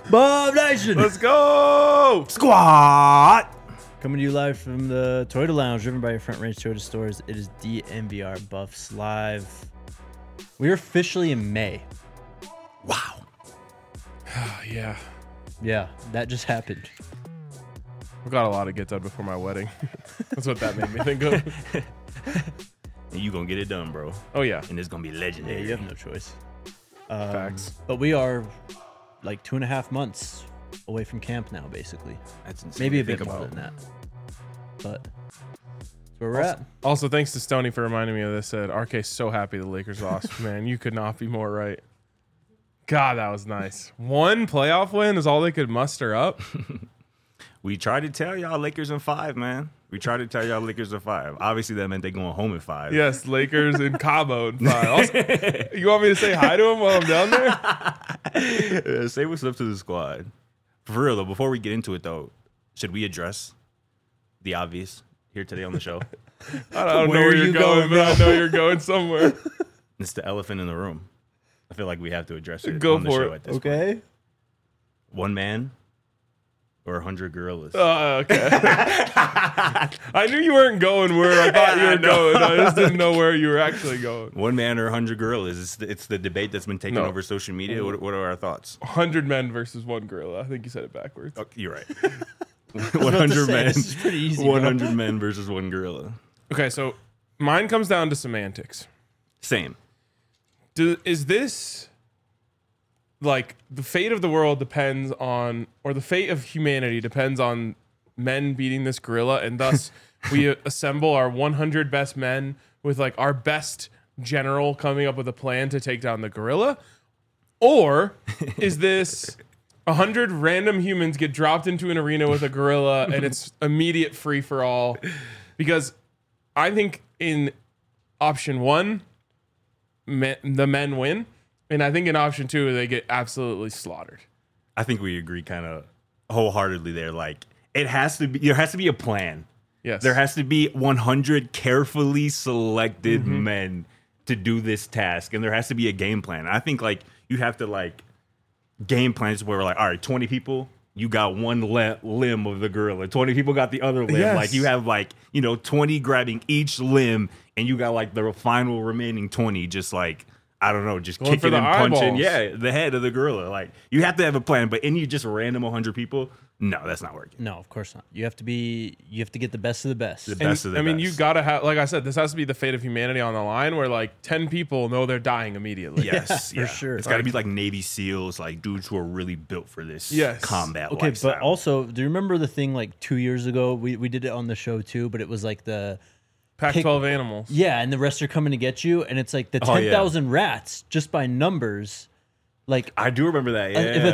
Bob Nation. Let's go! Squad. Coming to you live from the Toyota Lounge, driven by your Front Range Toyota stores. It is DNVR Buffs Live. We're officially in May. Wow. Yeah. Yeah, that just happened. I've got a lot to get done before my wedding. That's what that made me think of. And you gonna get it done, bro. Oh, yeah. And it's gonna be Yeah, legendary. you have no choice. Facts. But we are like 2.5 months away from camp now, basically. That's insane. Maybe a to bit think more about. than that. But that's where we're at. Also, thanks to Stoney for reminding me of this. Said RK's so happy the Lakers lost. Man, you could not be more right. God, that was nice. One playoff win is all they could muster up. We tried to tell y'all Lakers in 5, man. We tried to tell y'all Lakers in 5. Obviously, that meant they going home in 5. Yes, Lakers in Cabo in 5. Also, you want me to say hi to him while I'm down there? Say what's up to the squad. For real, though, before we get into it, though, should we address the obvious here today on the show? I don't know Where where are you're you going, going, but I know you're going somewhere. It's the elephant in the room. I feel like we have to address it Go on the for show it. at this point. Okay. One man or 100 gorillas? Okay. I knew you weren't going where I thought you were going. I just didn't know where you were actually going. One man or 100 gorillas? It's the debate that's been taken No. over social media. What are our thoughts? 100 men versus one gorilla. I think you said it backwards. Oh, you're right. I was about to 100 say, men. This is pretty easy. bro. 100 men versus one gorilla. Okay, so mine comes down to semantics. Same. Is this like the fate of the world depends on, or the fate of humanity depends on men beating this gorilla, and thus we assemble our 100 best men with like our best general coming up with a plan to take down the gorilla? Or is this 100 random humans get dropped into an arena with a gorilla and it's immediate free for all? Because I think in option one, the men win. And I think in option two, they get absolutely slaughtered. I think we agree kind of wholeheartedly there. Like, there has to be a plan. Yes. There has to be 100 carefully selected men to do this task. And there has to be a game plan. I think, like, you have to, like, game plans where we're like, all right, 20 people, you got one limb of the gorilla. 20 people got the other limb. Yes. Like, you have, like, 20 grabbing each limb, and you got, like, the final remaining 20 just, like, I don't know, just Going for kicking the and punching. eyeballs. Yeah, the head of the gorilla. Like, you have to have a plan, but any just random 100 people, no, that's not working. No, of course not. You have to get the best of the best. The best of the I mean, best. you gotta have, like I said, this has to be the fate of humanity on the line, where like 10 people know they're dying immediately. Yes, for sure. It's got to be like Navy SEALs, like dudes who are really built for this Yes. combat Okay, lifestyle. but also, do you remember the thing like 2 years ago? We did it on the show too, but it was like the Pac-12 animals. yeah, and the rest are coming to get you, and it's like the Oh, yeah. 10,000 rats just by numbers. Like I do remember that. Yeah, if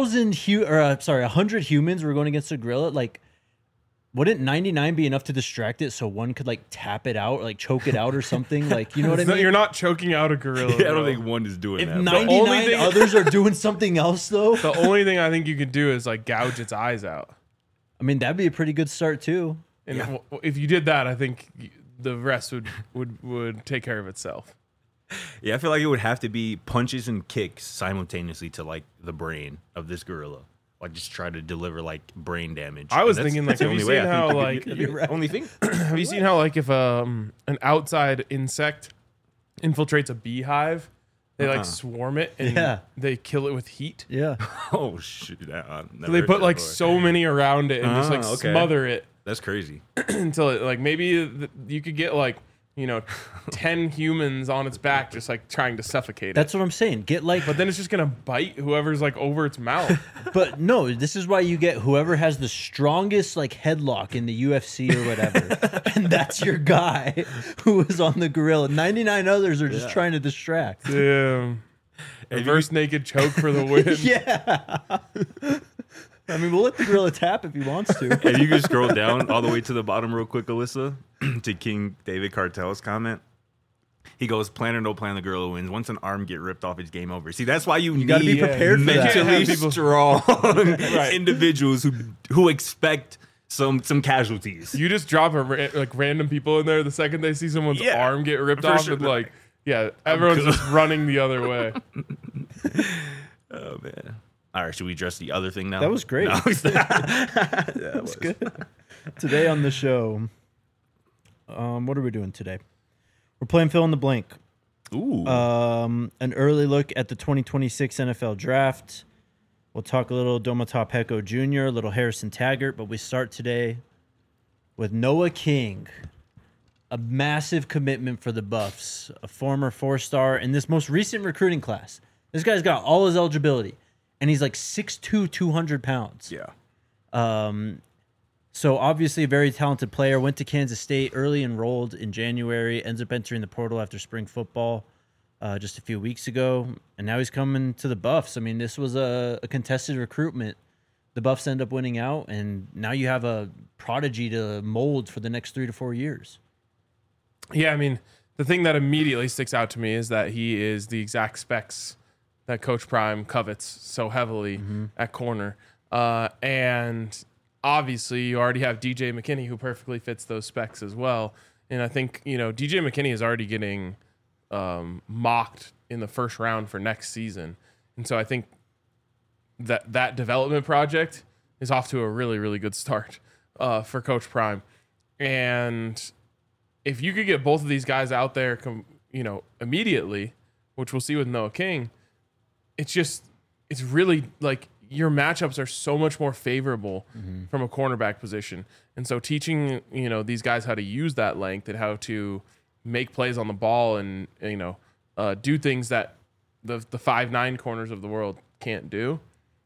100 humans were going against a gorilla, like wouldn't 99 be enough to distract it so one could like tap it out, or, like choke it out or something? Like, you know what I It's not- mean? You're not choking out a gorilla. I don't bro. think one is doing If that. but- 99 thing- others are doing something else, though, The only thing I think you could do is like gouge its eyes out. I mean that'd be a pretty good start too. And Yeah. if you did that, I think the rest would take care of itself. Yeah, I feel like it would have to be punches and kicks simultaneously to like the brain of this gorilla. Like just try to deliver like brain damage. I was And that's- thinking, that's like, the have you only way seen I think how, you could- like, that'd be the only thing. Have you seen how like if an outside insect infiltrates a beehive, they like swarm it and Yeah. they kill it with heat? Yeah. Oh shoot! I've never So they heard put that like before. so many around it and just like okay. smother it That's crazy. until it like maybe you could get like 10 humans on its back just like trying to suffocate it. That's what I'm saying. Get like, But then it's just gonna bite whoever's like over its mouth. but no, this is why you get whoever has the strongest like headlock in the UFC or whatever, and that's your guy who is on the gorilla. 99 others are just trying to distract. Damn. Reverse naked choke for the win. Yeah. I mean, we'll let the gorilla tap if he wants to. If you could scroll down all the way to the bottom real quick, Alyssa, to King David Cartel's comment. He goes, plan or no plan, the gorilla wins. Once an arm get ripped off, it's game over. See, that's why you gotta be need prepared for that. You can't mentally have people- strong individuals who expect some casualties. You just drop like random people in there the second they see someone's Yeah, arm get ripped for off sure. and like, yeah, everyone's just running the other way. Oh man, All right, should we address the other thing now? That was great. No, that was good. Today on the show, what are we doing today? We're playing fill in the blank. Ooh. An early look at the 2026 NFL Draft. We'll talk a little Domata Peko Jr., a little Harrison Taggart, but we start today with Noah King, a massive commitment for the Buffs, a former 4-star in this most recent recruiting class. This guy's got all his eligibility, and he's like 6'2", 200 pounds. Yeah. So obviously a very talented player. Went to Kansas State, early enrolled in January, ends up entering the portal after spring football just a few weeks ago, and now he's coming to the Buffs. I mean, this was a contested recruitment. The Buffs end up winning out, and now you have a prodigy to mold for the next 3 to 4 years. Yeah, I mean, the thing that immediately sticks out to me is that he is the exact specs that Coach Prime covets so heavily at corner. And obviously, you already have DJ McKinney, who perfectly fits those specs as well. And I think, DJ McKinney is already getting mocked in the first round for next season. And so I think that development project is off to a really, really good start for Coach Prime. And if you could get both of these guys out there, immediately, which we'll see with Noah King, it's really like your matchups are so much more favorable from a cornerback position. And so teaching, these guys how to use that length and how to make plays on the ball and, do things that the 5'9" corners of the world can't do,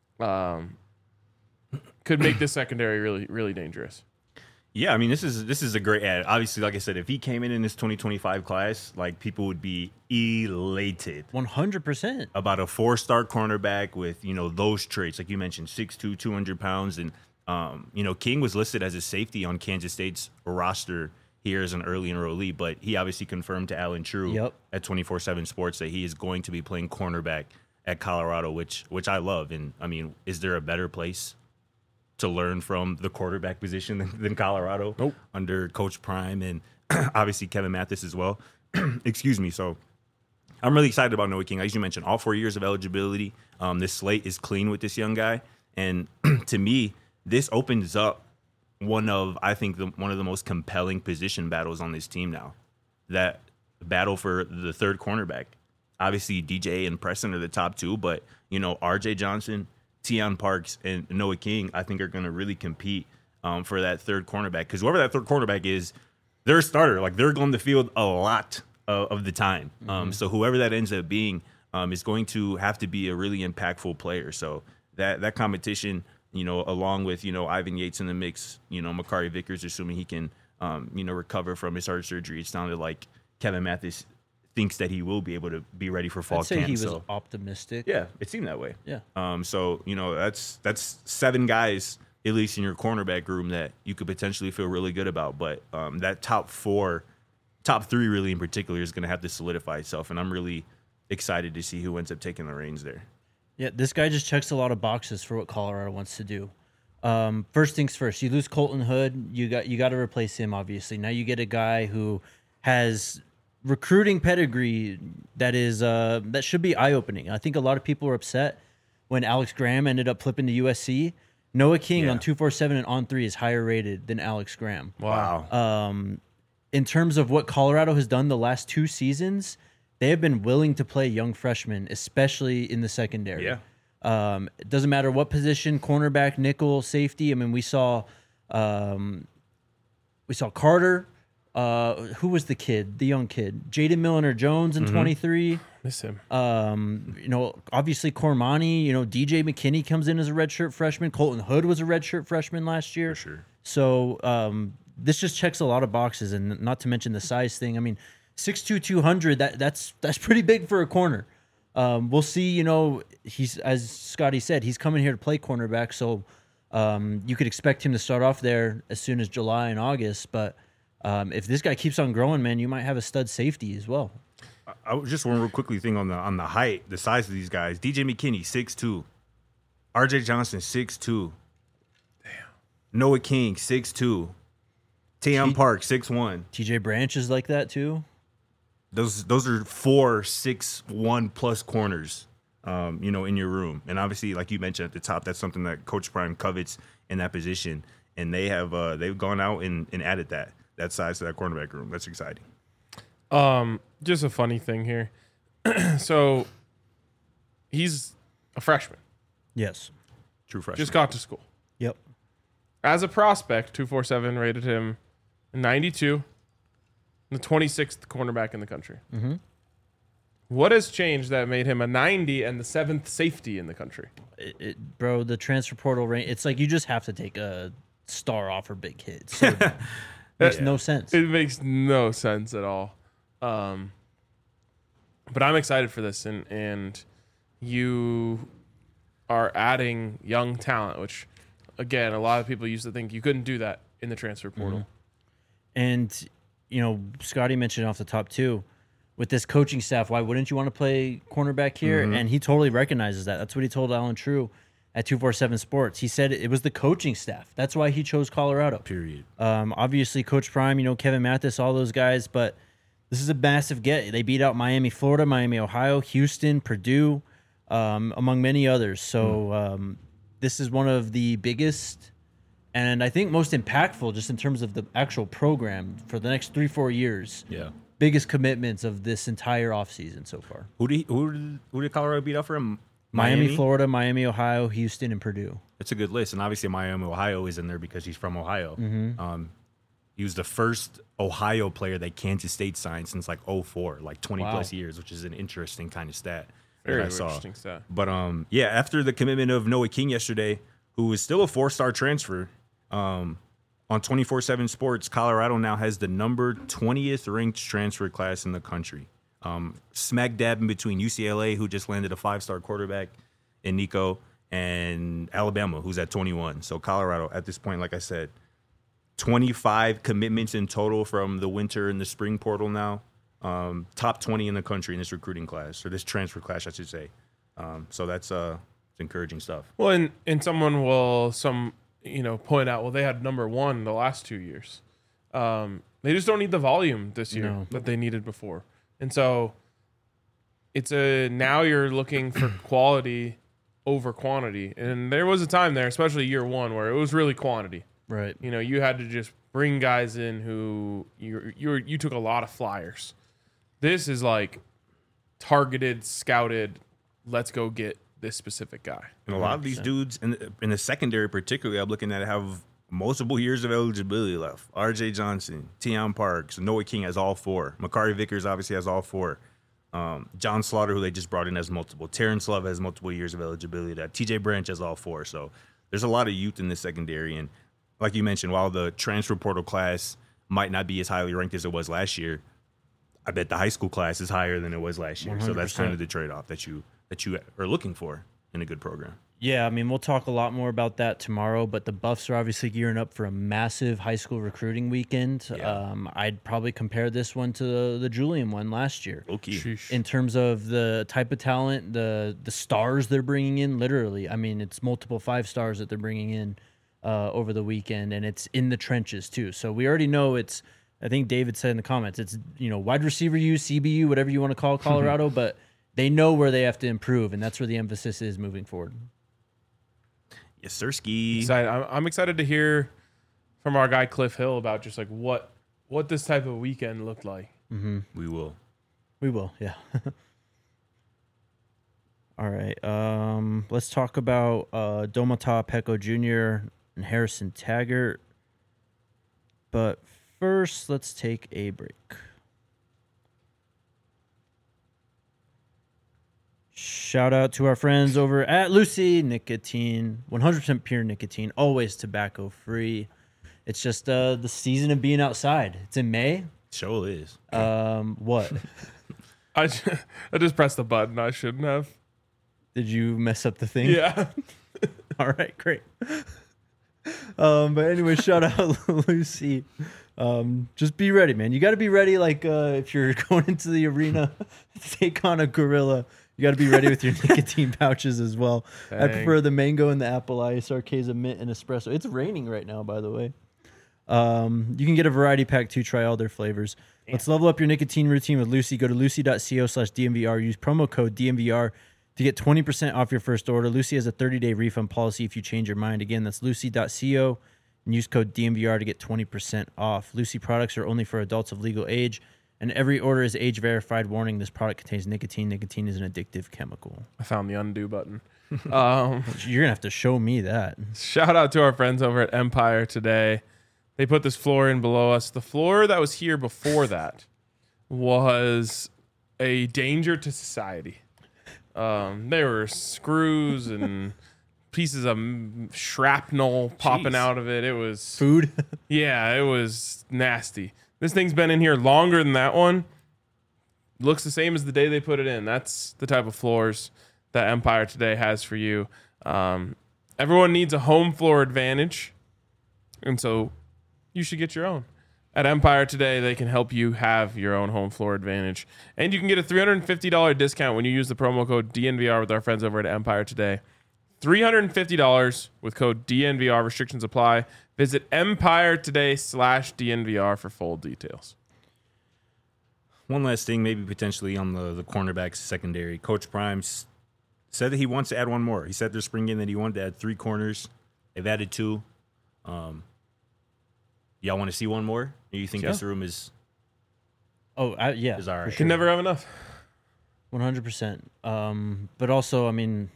could make this secondary really, really dangerous. Yeah, I mean, this is a great ad. Obviously, like I said, if he came in this 2025 class, like, people would be elated. 100%. About a 4-star cornerback with, those traits. Like you mentioned, 6'2", 200 pounds. And, King was listed as a safety on Kansas State's roster here as an early enrollee, but he obviously confirmed to Alan True at 24/7 Sports that he is going to be playing cornerback at Colorado, which I love. And, I mean, is there a better place to learn from the quarterback position than Colorado? Nope. Under Coach Prime and obviously Kevin Mathis as well. Excuse me. So I'm really excited about Noah King. As you mentioned, all 4 years of eligibility. This slate is clean with this young guy. And to me, this opens up one of the most compelling position battles on this team now. That battle for the third cornerback. Obviously, DJ and Preston are the top two, but, RJ Johnson, Teion Parks, and Noah King, I think, are going to really compete for that third cornerback. Because whoever that third cornerback is, they're a starter. Like, they're on the field a lot of the time. So whoever that ends up being is going to have to be a really impactful player. So that competition, along with, Ivan Yates in the mix, Makari Vickers, assuming he can, recover from his heart surgery. It sounded like Kevin Mathis thinks that he will be able to be ready for fall I'd say camp. he was optimistic. Yeah, it seemed that way. Yeah. So, that's 7 guys, at least in your cornerback room, that you could potentially feel really good about. But that top 3 really in particular is going to have to solidify itself. And I'm really excited to see who ends up taking the reins there. Yeah, this guy just checks a lot of boxes for what Colorado wants to do. First things first, you lose Colton Hood, you got to replace him, obviously. Now you get a guy who has recruiting pedigree that should be eye-opening. I think a lot of people were upset when Alex Graham ended up flipping to USC. Noah King on 247 and On 3 is higher rated than Alex Graham. Wow. In terms of what Colorado has done the last 2 seasons, they have been willing to play young freshmen, especially in the secondary. Yeah. It doesn't matter what position, cornerback, nickel, safety. I mean, we saw Carter. Who was the young kid? Jaden Milliner-Jones in 23. Miss him. Obviously Cormani, DJ McKinney comes in as a redshirt freshman. Colton Hood was a redshirt freshman last year. For sure. So this just checks a lot of boxes, and not to mention the size thing. I mean, 6'2", 200, that's pretty big for a corner. We'll see, he's, as Scotty said, he's coming here to play cornerback, so you could expect him to start off there as soon as July and August, but if this guy keeps on growing, man, you might have a stud safety as well. I just one real quickly thing on the height, the size of these guys. DJ McKinney, 6'2". RJ Johnson, 6'2". Damn. Noah King, 6'2". Teion Park, 6'1". TJ Branch is like that too. Those are 4 6'1" plus corners in your room. And obviously, like you mentioned at the top, that's something that Coach Prime covets in that position. And they've gone out and added that size to that cornerback room. That's exciting. Just a funny thing here. So he's a freshman. Yes. True freshman. Just got to school. Yep. As a prospect, 247 rated him 92, the 26th cornerback in the country. Mm-hmm. What has changed that made him a 90 and the 7th safety in the country? Bro, the transfer portal range, it's like you just have to take a star off for big hits. So it makes no sense. It makes no sense at all. But I'm excited for this, and you are adding young talent, which, again, a lot of people used to think you couldn't do that in the transfer portal. And, Scotty mentioned off the top too, with this coaching staff, why wouldn't you want to play cornerback here? And he totally recognizes that. That's what he told Alan True at 247 Sports. He said it was the coaching staff. That's why he chose Colorado. Period. Obviously, Coach Prime, Kevin Mathis, all those guys, but this is a massive get. They beat out Miami, Florida, Miami, Ohio, Houston, Purdue, among many others. So this is one of the biggest and I think most impactful just in terms of the actual program for the next 3-4 years. Yeah. Biggest commitments of this entire offseason so far. Who did Colorado beat out for him? Miami, Florida, Miami, Ohio, Houston, and Purdue. That's a good list. And obviously Miami, Ohio is in there because he's from Ohio. He was the first Ohio player that Kansas State signed since like 2004, like 20 plus years, which is an interesting kind of stat. Very that I saw. interesting stat. But after the commitment of Noah King yesterday, who is still a 4-star transfer, on 24/7 Sports, Colorado now has the number 20th ranked transfer class in the country. Smack dab in between UCLA, who just landed a 5-star quarterback in Nico, and Alabama, who's at 21. So Colorado, at this point, like I said, 25 commitments in total from the winter and the spring portal now. Top 20 in the country in this recruiting class, or this transfer class, I should say. So that's encouraging stuff. Well, and someone will point out, well, they had number 1 the last 2 years. They just don't need the volume this year that they needed before. And so now you're looking for quality over quantity. And there was a time there, especially year 1, where it was really quantity. Right. You had to just bring guys in who you took a lot of flyers. This is like targeted, scouted, let's go get this specific guy. And a lot of these dudes in the secondary, particularly, I'm looking at have multiple years of eligibility left. R.J. Johnson, Teion Parks, Noah King has all 4. Makari Vickers obviously has all 4. John Slaughter, who they just brought in, has multiple. Terrence Love has multiple years of eligibility. T.J. Branch has all 4. So there's a lot of youth in the secondary. And like you mentioned, while the transfer portal class might not be as highly ranked as it was last year, I bet the high school class is higher than it was last year. 100%. So that's kind of the trade-off that you are looking for in a good program. Yeah, I mean, we'll talk a lot more about that tomorrow, but the Buffs are obviously gearing up for a massive high school recruiting weekend. Yeah. I'd probably compare this one to the Julian one last year. Okay. In terms of the type of talent, the stars they're bringing in, literally. I mean, it's multiple 5 stars that they're bringing in over the weekend, and it's in the trenches too. So we already know it's, I think David said in the comments, it's, wide receiver U, CBU, whatever you want to call Colorado, but they know where they have to improve, and that's where the emphasis is moving forward. Yes, sir, Ski. I'm excited to hear from our guy Cliff Hill about just like what this type of weekend looked like. Mm-hmm. We will, yeah. All right. Let's talk about Domata Peko Jr. and Harrison Taggart. But first, let's take a break. Shout out to our friends over at Lucy Nicotine, 100% pure nicotine, always tobacco free. It's just the season of being outside. It's in May. Sure is. What? I just pressed the button I shouldn't have. Did you mess up the thing? Yeah. All right, great. But anyway, shout out Lucy. Just be ready, man. You got to be ready. Like if you're going into the arena to take on a gorilla, you got to be ready with your nicotine pouches as well. Dang. I prefer the mango and the apple ice, Arceza mint and espresso. It's raining right now, by the way. You can get a variety pack to try all their flavors. Let's level up your nicotine routine with Lucy. Go to lucy.co/DMVR. Use promo code DMVR To get 20% off your first order, Lucy has a 30-day refund policy if you change your mind. Again, that's lucy.co and use code DMVR to get 20% off. Lucy products are only for adults of legal age, and every order is age verified. Warning, this product contains nicotine. Nicotine is an addictive chemical. I found the undo button. You're going to have to show me that. Shout out to our friends over at Empire Today. They put this floor in below us. The floor that was here before that was a danger to society. There were screws and pieces of shrapnel popping out of it. It was Food? yeah, it was nasty. This thing's been in here longer than that one. Looks the same as the day they put it in. That's the type of floors that Empire Today has for you. Everyone needs a home floor advantage, and so you should get your own. At Empire Today, they can help you have your own home floor advantage. And you can get a $350 discount when you use the promo code DNVR with our friends over at Empire Today. $350 with code DNVR. Restrictions apply. Visit EmpireToday/DNVR for full details. One last thing, maybe potentially on the cornerbacks secondary. Coach Prime said that he wants to add one more. He said this spring game that he wanted to add 3 corners. They've added 2. Y'all want to see one more? Or you think this room is Yeah. all right? Can never have enough. 100%. But also, I mean,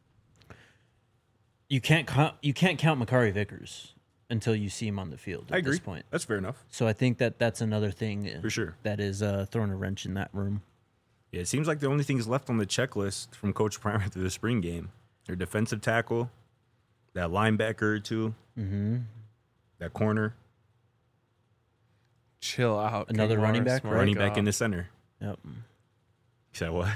you can't count Makari Vickers until you see him on the field at I agree. this point. That's fair enough. So I think that's another thing For sure. that is throwing a wrench in that room. Yeah, it seems like the only things left on the checklist from Coach Prime after the spring game are defensive tackle, that linebacker or two, that corner, Chill out. Another King running Morris. back? My running back God. in the center. Yep. You said what?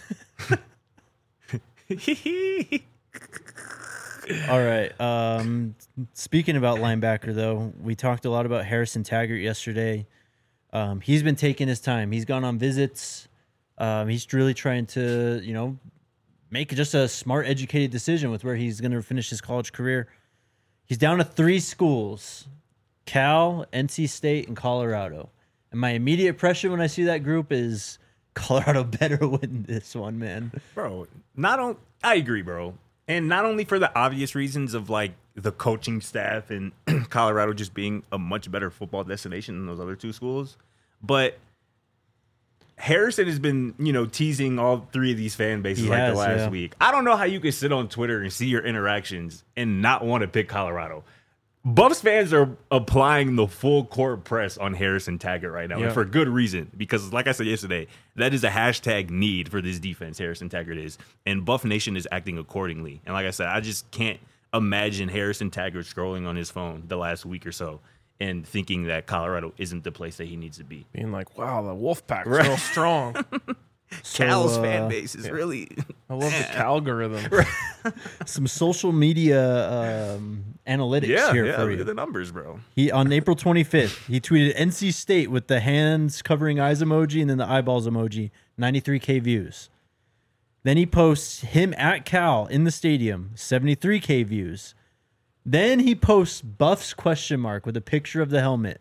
All right. Speaking about linebacker, though, we talked a lot about Harrison Taggart yesterday. He's been taking his time. He's gone on visits. He's really trying to, make just a smart, educated decision with where he's going to finish his college career. He's down to 3 schools: Cal, NC State, and Colorado. And my immediate impression when I see that group is Colorado better win this one, man. Bro, I agree, bro. And not only for the obvious reasons of like the coaching staff and Colorado just being a much better football destination than those other 2 schools, but Harrison has been, teasing all 3 of these fan bases the last week. I don't know how you can sit on Twitter and see your interactions and not want to pick Colorado. Buffs fans are applying the full court press on Harrison Taggart right now, and for good reason. Because, like I said yesterday, that is a hashtag need for this defense. Harrison Taggart is, and Buff Nation is acting accordingly. And like I said, I just can't imagine Harrison Taggart scrolling on his phone the last week or so and thinking that Colorado isn't the place that he needs to be. Being like, wow, the Wolfpack's real strong. Cal's fan base is really. I love the Calgorithm. Some social media analytics here for look you. at the numbers, bro. He on April 25th, he tweeted NC State with the hands covering eyes emoji and then the eyeballs emoji, 93K views. Then he posts him at Cal in the stadium, 73K views. Then he posts Buffs question mark with a picture of the helmet,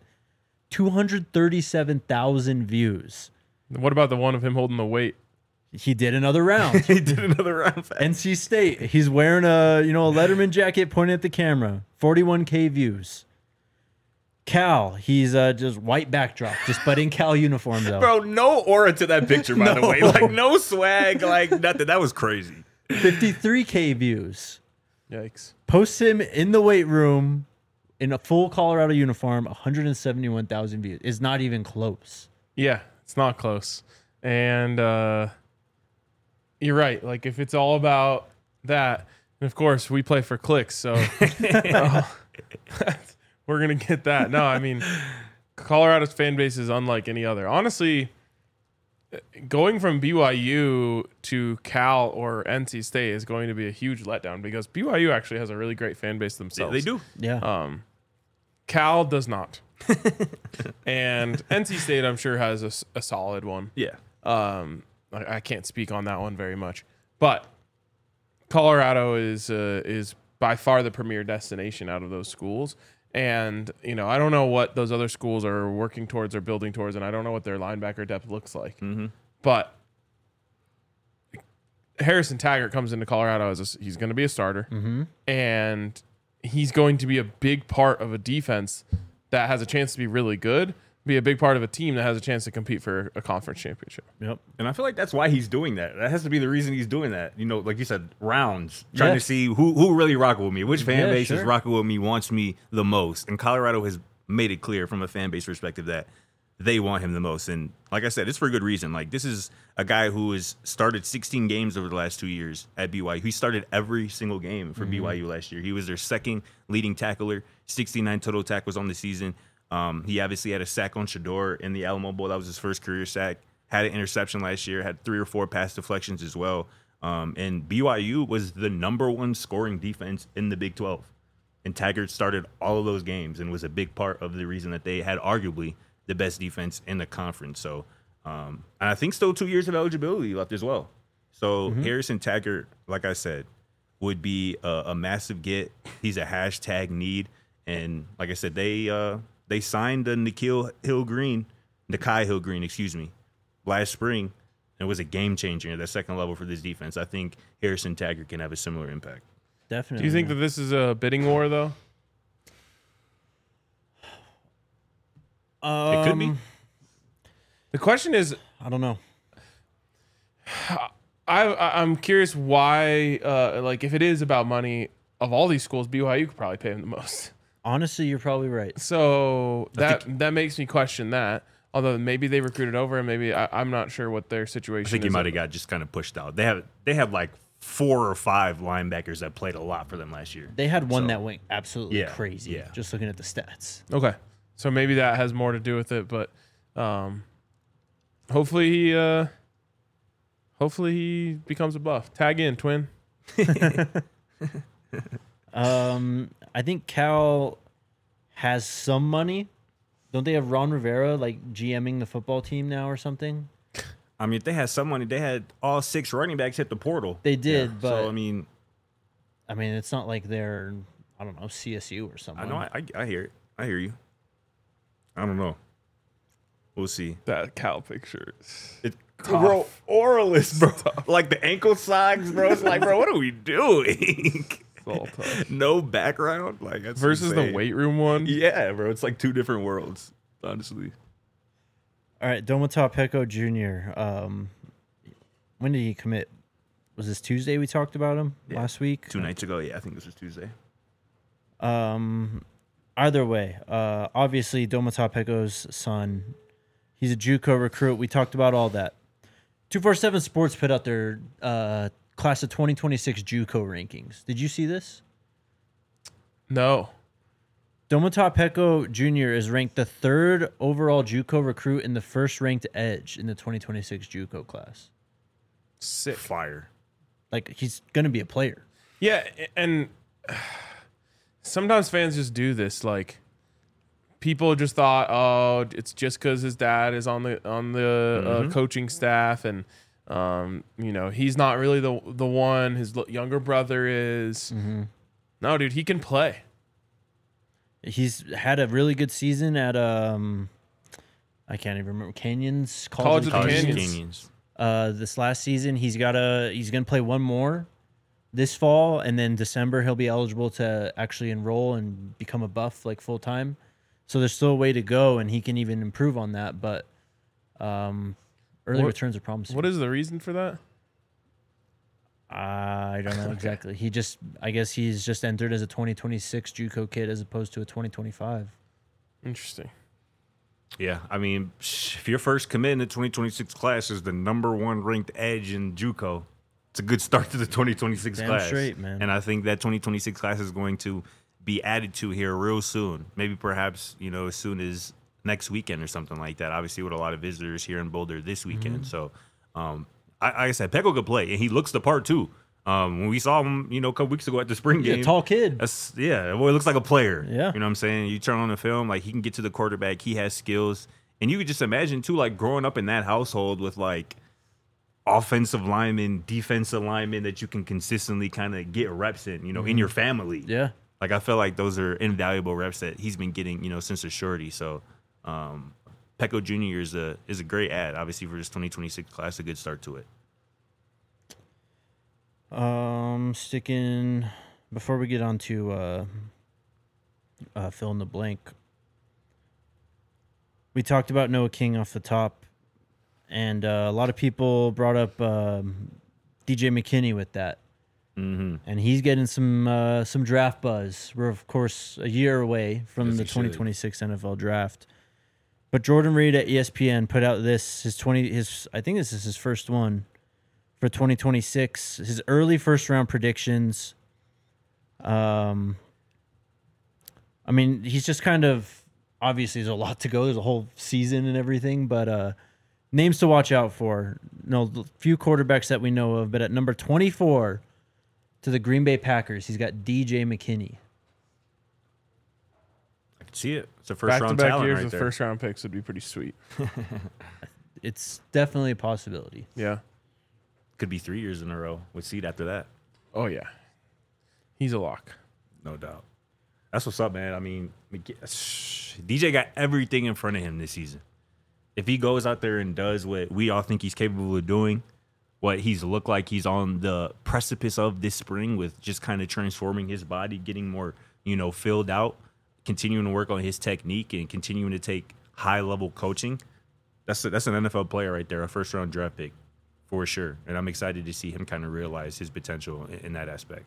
237,000 views. What about the one of him holding the weight? He did another round. He did another round. NC State. He's wearing a Letterman jacket pointing at the camera. 41K views. Cal. He's just white backdrop, but in Cal uniform though. Bro, no aura to that picture, by the way. Like no swag, like nothing. That was crazy. 53K views. Yikes. Posts him in the weight room in a full Colorado uniform. 171,000 views. It's not even close. Yeah, it's not close. And you're right. Like, if it's all about that, and of course, we play for clicks, so we're going to get that. No, I mean, Colorado's fan base is unlike any other. Honestly, going from BYU to Cal or NC State is going to be a huge letdown because BYU actually has a really great fan base themselves. They do. Yeah. Cal does not. And NC State, I'm sure, has a solid one. Yeah. I can't speak on that one very much, but Colorado is by far the premier destination out of those schools. And I don't know what those other schools are working towards or building towards, and I don't know what their linebacker depth looks like. Mm-hmm. But Harrison Taggart comes into Colorado he's going to be a starter, and he's going to be a big part of a defense that has a chance to be really good, be a big part of a team that has a chance to compete for a conference championship. Yep. And I feel like that's why he's doing that. That has to be the reason he's doing that. You know, like you said, rounds, trying Yeah. to see who really rocking with me, which fan Yeah, base is sure. rocking with me, wants me the most. And Colorado has made it clear from a fan base perspective that they want him the most. And like I said, it's for a good reason. Like, this is a guy who has started 16 games over the last 2 years at BYU. He started every single game for BYU last year. He was their second leading tackler, 69 total tackles on the season. He obviously had a sack on Shador in the Alamo Bowl. That was his first career sack. Had an interception last year, had 3 or 4 pass deflections as well. And BYU was the number 1 scoring defense in the Big 12. And Taggart started all of those games and was a big part of the reason that they had arguably the best defense in the conference. So, and I think still 2 years of eligibility left as well. So Harrison Taggart, like I said, would be a massive get. He's a hashtag need. And like I said, they signed Nikhai Hill Green, last spring. It was a game changer at the second level for this defense. I think Harrison Taggart can have a similar impact. Definitely. Do you think that this is a bidding war, though? It could be. The question is, I don't know. I'm curious why, like, if it is about money, of all these schools, BYU could probably pay him the most. Honestly, you're probably right. So that makes me question that. Although maybe they recruited over him, maybe I'm not sure what their situation is. I think he might have got just kind of pushed out. They have like 4 or 5 linebackers that played a lot for them last year. They had one So, that went absolutely yeah, crazy. yeah. Just looking at the stats. Okay, so maybe that has more to do with it, but hopefully he becomes a buff. Tag in, twin. I think Cal has some money. Don't they have Ron Rivera like GMing the football team now or something? I mean, if they had some money, they had all 6 running backs hit the portal. They did, but so I mean, it's not like they're, I don't know, CSU or something. I know I hear it. I hear you. I don't know. We'll see. That Cal picture. It, bro, Oralist, bro. Like the ankle socks, bro. It's like, bro, what are we doing? It's all tough. No background, like that's Versus insane. the weight room one. Yeah, bro. It's like 2 different worlds, honestly. All right, Domata Peko Jr. When did he commit? Was this Tuesday we talked about him last week? 2 nights ago, yeah, I think this was Tuesday. Either way, obviously Domata Peko's son, he's a JUCO recruit. We talked about all that. 247 Sports put out their class of 2026 JUCO rankings. Did you see this? No. Domata Peko Jr. is ranked the 3rd overall JUCO recruit and the 1st ranked edge in the 2026 JUCO class. Sick. Fire. Like, he's going to be a player. Yeah, and sometimes fans just do this. Like, people just thought, oh, it's just because his dad is on the coaching staff, and he's not really the one. His younger brother is. No, dude, he can play. He's had a really good season at I can't even remember, Canyons College of the College Canyons. This last season he's gonna play one more this fall, and then December he'll be eligible to actually enroll and become a buff like full time. So there's still a way to go, and he can even improve on that. But early returns are promising. What is the reason for that? I don't know exactly. I guess he's just entered as a 2026 JUCO kid as opposed to a 2025. Interesting. Yeah, I mean, if your first commit in the 2026 class is the number 1 ranked edge in JUCO, it's a good start to the 2026 Damn class. straight, man. And I think that 2026 class is going to be added to here real soon. Maybe perhaps, as soon as next weekend or something like that. Obviously, with a lot of visitors here in Boulder this weekend. So, like I said, Peko could play, and he looks the part too. When we saw him, a couple weeks ago at the spring game, Yeah, tall kid. Well, it looks like a player. Yeah. You know what I'm saying? You turn on the film, like he can get to the quarterback. He has skills. And you could just imagine too, like growing up in that household with like offensive linemen, defensive linemen that you can consistently kind of get reps in, in your family. Yeah. Like I feel like those are invaluable reps that he's been getting, since a shorty. So Peko Jr. is a great ad, obviously, for this 2026 class, a good start to it. Sticking before we get on to fill in the blank. We talked about Noah King off the top, and a lot of people brought up DJ McKinney with that. Mm-hmm. And he's getting some draft buzz. We're of course a year away from Yes, the he should. 2026 NFL draft. But Jordan Reed at ESPN put out his I think this is his first one for 2026. His early first round predictions. I mean, he's just kind of obviously there's a lot to go. There's a whole season and everything, but names to watch out for. No, few quarterbacks that we know of, but at number 24 to the Green Bay Packers, he's got DJ McKinney. I can see it. It's a first round Back-to-back talent years right with there. first round picks would be pretty sweet. It's definitely a possibility. Yeah. Could be 3 years in a row with seed after that. Oh yeah. He's a lock. No doubt. That's what's up, man. I mean, DJ got everything in front of him this season. If he goes out there and does what we all think he's capable of doing, what he's looked like he's on the precipice of this spring with just kind of transforming his body, getting more, filled out, continuing to work on his technique and continuing to take high-level coaching, that's an NFL player right there, a first-round draft pick for sure. And I'm excited to see him kind of realize his potential in that aspect.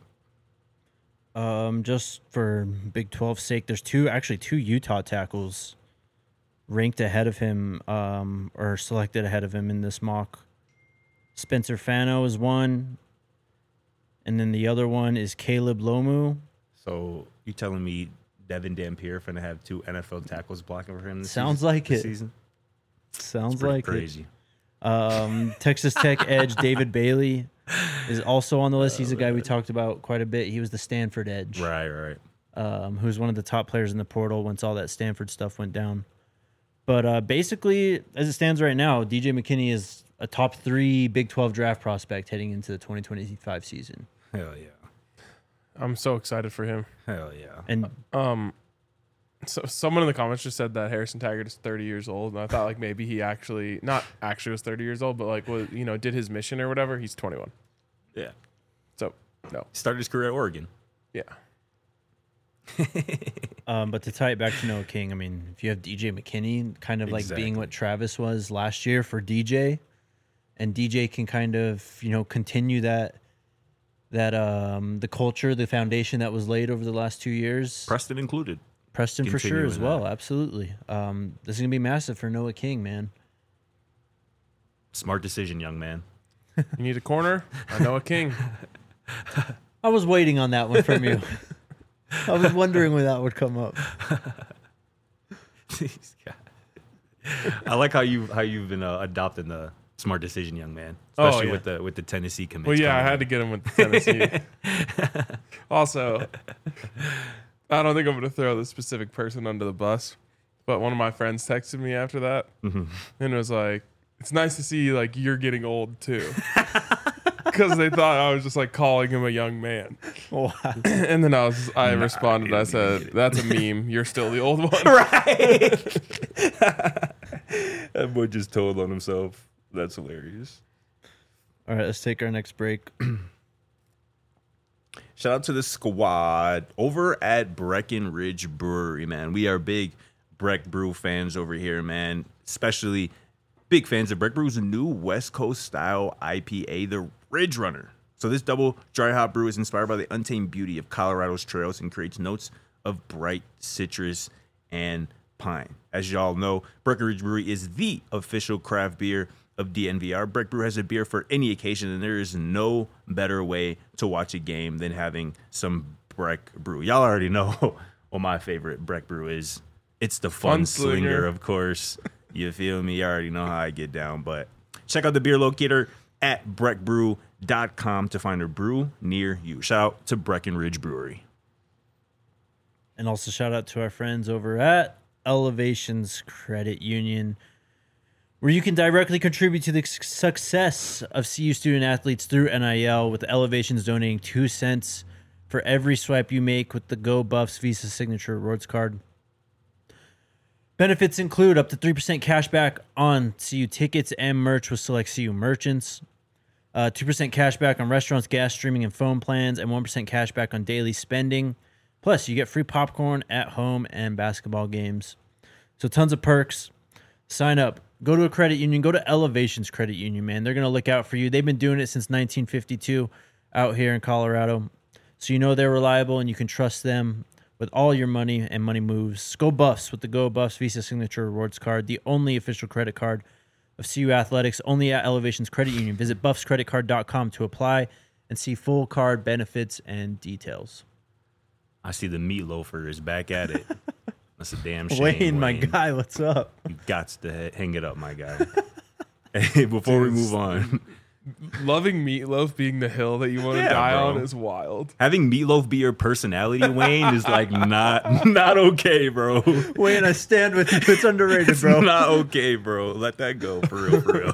Just for Big 12's sake, there's two Utah tackles ranked ahead of him, or selected ahead of him in this mock. Spencer Fano is one, and then the other one is Caleb Lomu. So you telling me Devin Dampier finna have 2 NFL tackles blocking for him this Sounds season? like this it. season? Sounds It's pretty like crazy. it. Texas Tech edge David Bailey is also on the list. He's a guy we talked about quite a bit. He was the Stanford edge, Right. who's one of the top players in the portal once all that Stanford stuff went down. But basically, as it stands right now, DJ McKinney is a top 3 Big 12 draft prospect heading into the 2025 season. Hell yeah. I'm so excited for him. Hell yeah. And So someone in the comments just said that Harrison Taggart is 30 years old, and I thought like maybe he not actually was 30 years old, but like was did his mission or whatever. He's 21. Yeah. So no, Started his career at Oregon. yeah, but to tie it back to Noah King, I mean, if you have DJ McKinney kind of like being what Travis was last year for DJ, and DJ can kind of, continue that the culture, the foundation that was laid over the last 2 years. Preston included. Preston for sure as continuing well. Absolutely. This is going to be massive for Noah King, man. Smart decision, young man. you need a corner. I know a king. I was waiting on that one from you. I was wondering when that would come up. I like how you've been adopting the smart decision, young man. Oh, Especially yeah. with the Tennessee commits. Well, yeah, I coming had in. to get him with Tennessee. Also, I don't think I'm going to throw the specific person under the bus, but one of my friends texted me after that and was like, "It's nice to see like you're getting old too," because they thought I was just like calling him a young man. Wow. And then I responded. I said, "That's a meme. You're still the old one." Right. That boy just told on himself. That's hilarious. All right, let's take our next break. Shout out to the squad over at Breckenridge Brewery, man. We are big Breck Brew fans over here, man. Especially big fans of Breck Brew's new West Coast style IPA, the Ridge Runner. So this double dry hop brew is inspired by the untamed beauty of Colorado's trails and creates notes of bright citrus and pine. As y'all know, Breckenridge Brewery is the official craft beer of DNVR. Breck Brew has a beer for any occasion, and there is no better way to watch a game than having some Breck Brew. Y'all already know what my favorite Breck Brew is. It's the Fun Slinger, of course. You feel me? You already know how I get down. But check out the beer locator at breckbrew.com to find a brew near you. Shout out to Breckenridge Brewery. And also shout out to our friends over at Elevations Credit Union, where you can directly contribute to the success of CU student athletes through NIL, with Elevations donating 2 cents for every swipe you make with the Go Buffs Visa Signature Rewards Card. Benefits include up to 3% cash back on CU tickets and merch with select CU merchants. 2% cash back on restaurants, gas, streaming, and phone plans, and 1% cash back on daily spending. Plus, you get free popcorn at home and basketball games. So tons of perks. Sign up. Go to a credit union. Go to Elevations Credit Union, man. They're going to look out for you. They've been doing it since 1952 out here in Colorado. So you know they're reliable and you can trust them with all your money and money moves. Go Buffs with the Go Buffs Visa Signature Rewards Card, the only official credit card of CU Athletics, only at Elevations Credit Union. Visit buffscreditcard.com to apply and see full card benefits and details. I see the meatloafer is back at it. That's a damn shame. Wayne, my guy, what's up? You got to hang it up, my guy. Hey, before we move on, Loving Meatloaf being the hill that you want to die bro. on is wild. having Meatloaf be your personality, Wayne, is like not okay, bro. Wayne, I stand with you. It's underrated, It's bro. not okay, bro. Let that go for real, for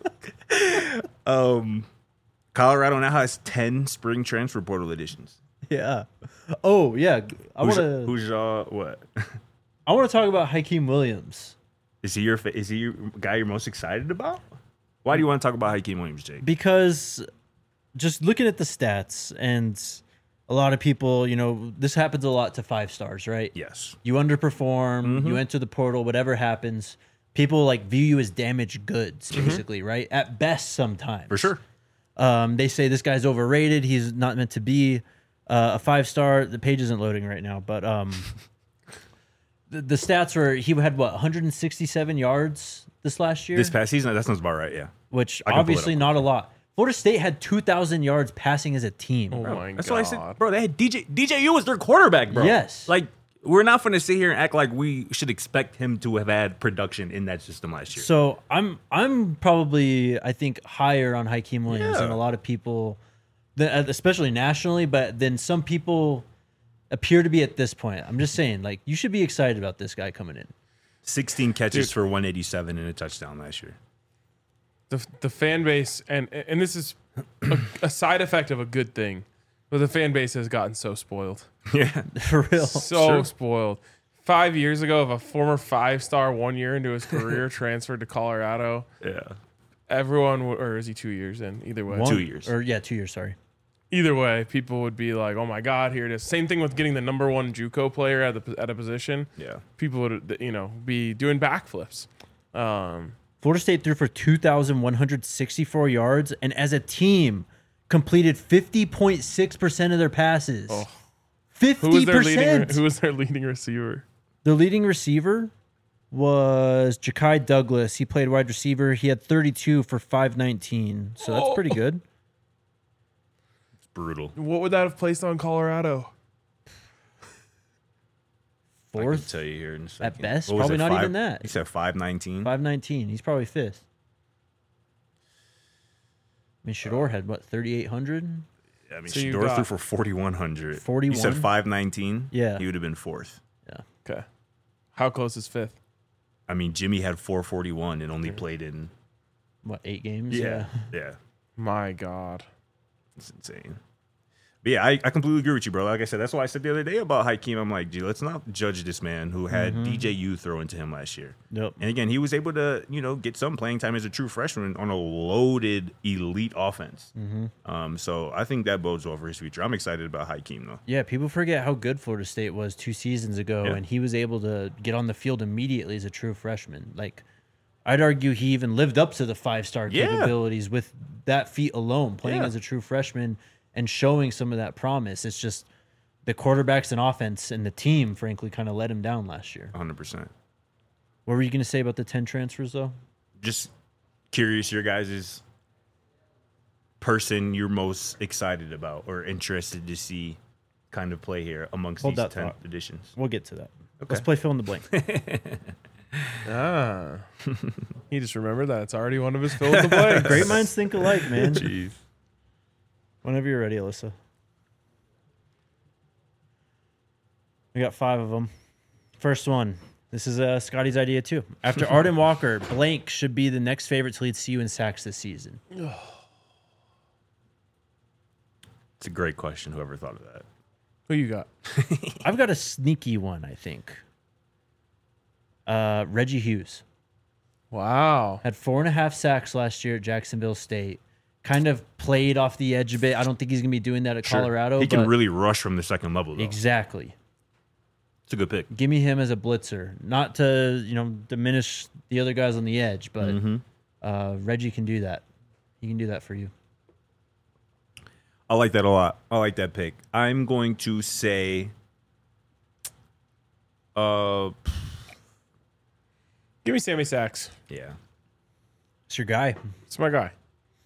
real. Colorado now has 10 spring transfer portal editions. Yeah. Oh, yeah. Who's y'all? What I want to talk about Hakeem Williams is he your guy you're most excited about? Why do you want to talk about Hakeem Williams, Jake? because just looking at the stats, and a lot of people, this happens a lot to 5 stars, right? Yes. You underperform, you enter the portal, whatever happens, people view you as damaged goods, basically, right? At best, sometimes. For sure. They say this guy's overrated. He's not meant to be a 5-star. The page isn't loading right now, but the stats were he had 167 yards this last year, This past season, that sounds about right, yeah. which I can pull it obviously up. not a lot. Florida State had 2,000 yards passing as a team. Oh my That's god. what I said, bro. They had DJU was their quarterback, bro. Yes. Like, we're not going to sit here and act like we should expect him to have had production in that system last year. So I'm probably, I think, higher on Hakeem Williams Yeah. than a lot of people, especially nationally, but then some people appear to be at this point. I'm just saying, you should be excited about this guy coming in. 16 catches for 187 and a touchdown last year. The fan base, and this is a side effect of a good thing, but the fan base has gotten so spoiled. Yeah. For real. So spoiled. 5 years ago, if a former 5-star 1 year into his career transferred to Colorado, Yeah. everyone or is he 2 years in? Either way. 2 years. 2 years, sorry. Either way, people would be like, "Oh my God, here it is." Same thing with getting the number 1 JUCO player at a position. Yeah. People would be doing backflips. Florida State threw for 2,164 yards, and as a team, completed 50.6% of their passes. Oh. 50%. Who was their leading receiver? The leading receiver was Ja'Kai Douglas. He played wide receiver. He had 32 for 519, so that's pretty good. It's brutal. What would that have placed on Colorado? I can Fourth tell you here in a second. at best, What was probably it, not even that. He said 519. 519. He's probably fifth. I mean, Shador had 3,800. I mean, So you Shador got- threw for 4,100. 41? You said 519. Yeah. He would have been fourth. Okay. How close is fifth? I mean, Jimmy had 441 and only played in. 8 games? Yeah. My God. It's insane. But yeah, I completely agree with you, bro. Like I said, that's why I said the other day about Hakeem. I'm like, gee, let's not judge this man who had DJU throw into him last year. Yep. And again, he was able to, get some playing time as a true freshman on a loaded elite offense. So I think that bodes well for his future. I'm excited about Hakeem, though. Yeah, people forget how good Florida State was 2 seasons ago, Yeah. and he was able to get on the field immediately as a true freshman. I'd argue he even lived up to the 5-star Yeah. capabilities with that feat alone, playing Yeah. as a true freshman and showing some of that promise. It's just the quarterbacks and offense and the team, frankly, kind of let him down last year. 100%. What were you going to say about the 10 transfers, though? Just curious, your guys' person you're most excited about or interested to see kind of play here amongst Hold these that 10 thought. editions. We'll get to that. Let's play fill in the blank. He just remembered that it's already one of his fill in the blanks. Great minds think alike, man. Jeez. Whenever you're ready, Alyssa. We got 5 of them. First one. This is Scotty's idea, too. After Arden Walker, blank should be the next favorite to lead CU in sacks this season. It's a great question, whoever thought of that. Who you got? I've got a sneaky one, I think. Reggie Hughes. Wow. Had 4.5 sacks last year at Jacksonville State. kind of played off the edge a bit. I don't think he's going to be doing that at Colorado. He can but really rush from the second level, though. exactly. It's a good pick. Give me him as a blitzer, not to diminish the other guys on the edge, but Reggie can do that. He can do that for you. I like that a lot. I like that pick. I'm going to say, Give me Sammy Sachs. yeah. It's your guy. It's my guy.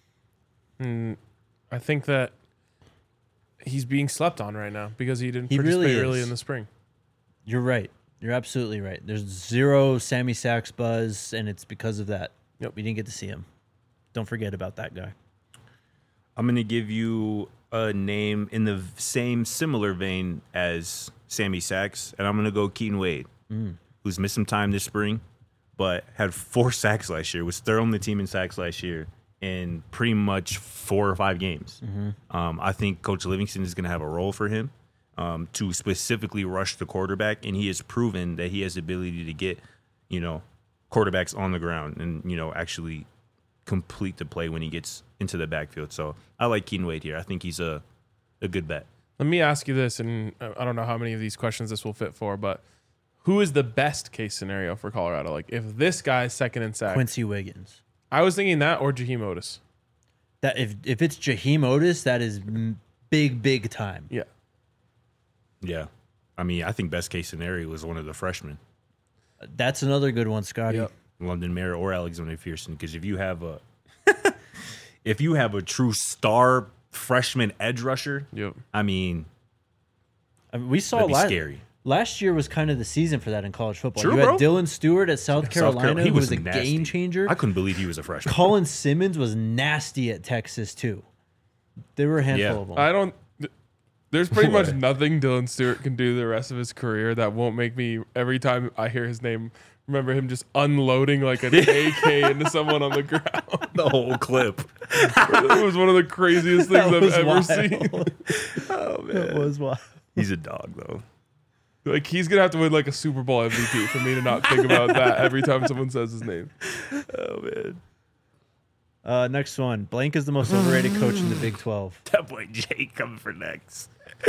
I think that he's being slept on right now because he didn't He participate really early is. in the spring. You're right. You're absolutely right. There's zero Sammy Sachs buzz, and it's because of that. Yep. We didn't get to see him. Don't forget about that guy. I'm going to give you a name in the same similar vein as Sammy Sachs, and I'm going to go Keaton Wade, who's missed some time this spring, but had 4 sacks last year, was third on the team in sacks last year in pretty much 4 or 5 games. I think Coach Livingston is going to have a role for him to specifically rush the quarterback, and he has proven that he has the ability to get, quarterbacks on the ground and, actually complete the play when he gets into the backfield. So I like Keaton Wade here. I think he's a good bet. Let me ask you this, and I don't know how many of these questions this will fit for, but who is the best case scenario for Colorado? Like, if this guy's second in sack, Quincy Wiggins. I was thinking that or Jaheim Otis. That if it's Jaheim Otis, that is big time. Yeah. Yeah. I mean, I think best case scenario was one of the freshmen, That's another good one, Scotty. Yep. London Mara or Alexander Pearson, because if you have a true star freshman edge rusher, Yep. I mean, I mean, we saw that'd be scary. Last year was kind of the season for that in college football. True, you had bro. Dylan Stewart at South Carolina, He who was a nasty. game changer. I couldn't believe he was a freshman. Colin Simmons was nasty at Texas too. There were a handful of them. I don't. There's pretty much What? nothing Dylan Stewart can do the rest of his career that won't make me, every time I hear his name, remember him just unloading like an AK into someone on the ground. The whole clip. It was one of the craziest things That was I've ever wild. seen. Oh, man. It was wild. He's a dog, though. Like, he's gonna have to win like a Super Bowl MVP for me to not think about that every time someone says his name. Oh, man. Next one. Blank is the most overrated coach in the Big 12. That boy Jake coming for next.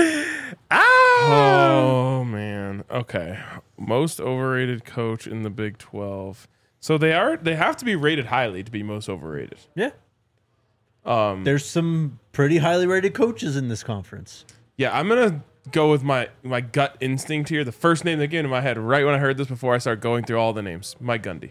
Oh man. Okay. Most overrated coach in the Big 12. So they have to be rated highly to be most overrated. Yeah. There's some pretty highly rated coaches in this conference. Yeah, I'm gonna go with my gut instinct here. The first name that came to my head right when I heard this before I start going through all the names, Mike Gundy.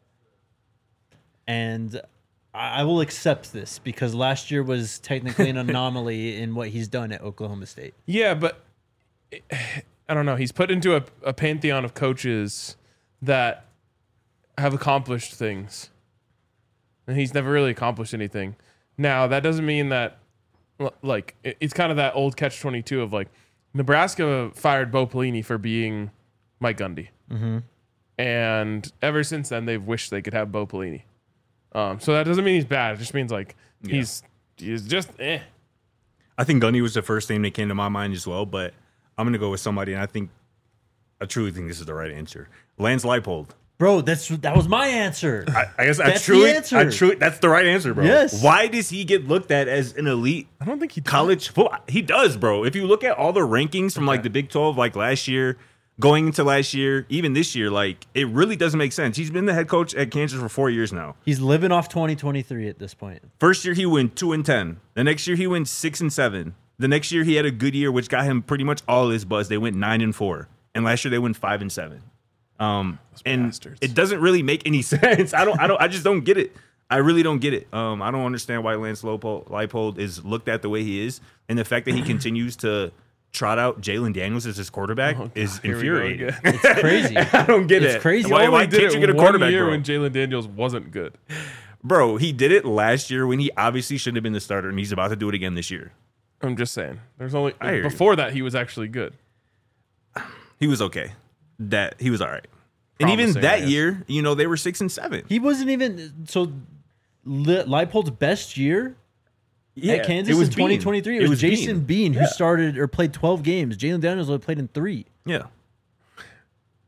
And I will accept this because last year was technically an anomaly in what he's done at Oklahoma State. Yeah, but I don't know. He's put into a pantheon of coaches that have accomplished things, and he's never really accomplished anything. Now, that doesn't mean that, like, it's kind of that old catch-22 of, like, Nebraska fired Bo Pelini for being Mike Gundy. Mm-hmm. And ever since then, they've wished they could have Bo Pelini. So that doesn't mean he's bad. It just means, like, he's just eh. I think Gundy was the first name that came to my mind as well, but I'm going to go with somebody, and I truly think this is the right answer. Lance Leipold. Bro, that was my answer. I guess That's the answer. that's the right answer, bro. Yes. Why does he get looked at as an elite I don't think he does. college football? He does, bro. If you look at all the rankings from like the Big 12, like last year, going into last year, even this year, like it really doesn't make sense. He's been the head coach at Kansas for 4 years now. He's living off 2023 at this point. First year he went 2-10. The next year he went 6-7. The next year he had a good year, which got him pretty much all his buzz. They went 9-4, and last year they went 5-7. And bastards. it doesn't really make any sense. I just don't get it. I really don't get it. I don't understand why Lance Leipold is looked at the way he is, and the fact that he continues to trot out Jalen Daniels as his quarterback is Here we go infuriating. again. It's crazy. I don't get It's it. crazy. Why, He why He did can't you it get a 1 quarterback, year bro? when Jalen Daniels wasn't good. Bro, he did it last year when he obviously shouldn't have been the starter, and he's about to do it again this year. I'm just saying. There's only I hear you. before that he was actually good. He was okay. He was all right. And even Promising, I that guess. year, they were 6-7. He wasn't even so. Leipold's best year at Kansas in 2023. It was Jason Bean who started or played 12 games. Jalen Daniels only played in 3. Yeah.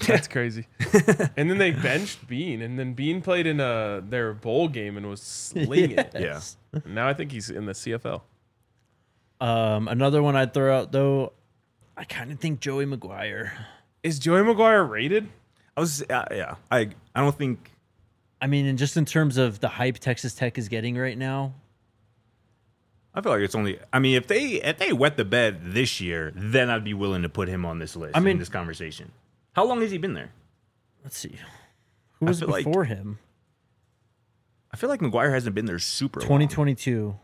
That's crazy. And then they benched Bean, and then Bean played in their bowl game and was slinging it. Yeah. And now I think he's in the CFL. Another one I'd throw out though, I kind of think Joey Maguire. Is Joey Maguire rated? Yeah. I don't think. I mean, and just in terms of the hype Texas Tech is getting right now, I feel like it's only. I mean, if they wet the bed this year, then I'd be willing to put him on this list. In this conversation. How long has he been there? let's see, who was before him? I feel like McGuire hasn't been there super long. 2022.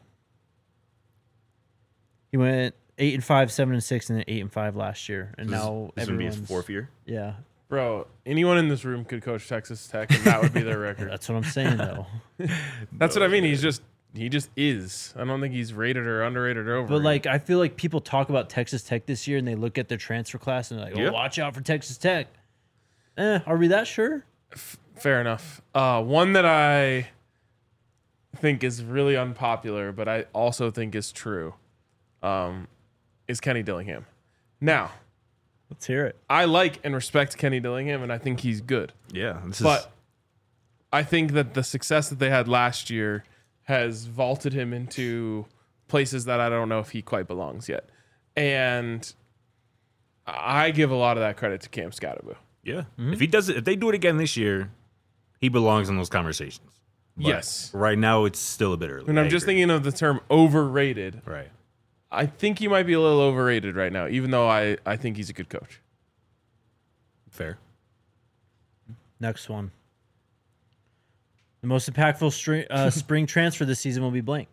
He went 8-5, 7-6, and then 8-5 last year, and now This would be his everyone's fourth year. Yeah, Bro, anyone in this room could coach Texas Tech, and that would be their record. that's what I'm saying though. That's what I mean. He just is. I don't think he's rated or underrated or overrated. But like, I feel like people talk about Texas Tech this year, and they look at their transfer class and they're like, "Oh, Yeah. watch out for Texas Tech." Are we that sure? Fair enough. One that I think is really unpopular, but I also think is true, is Kenny Dillingham. Now, Let's hear it. I like and respect Kenny Dillingham, and I think he's good. Yeah, But I think that the success that they had last year has vaulted him into places that I don't know if he quite belongs yet. And I give a lot of that credit to Cam Scatterbo. yeah. If they do it again this year, he belongs in those conversations. But Yes. Right now, it's still a bit early. And I'm just thinking of the term overrated. Right. I think he might be a little overrated right now, even though I think he's a good coach. Fair. Next one. The most impactful spring transfer this season will be blank.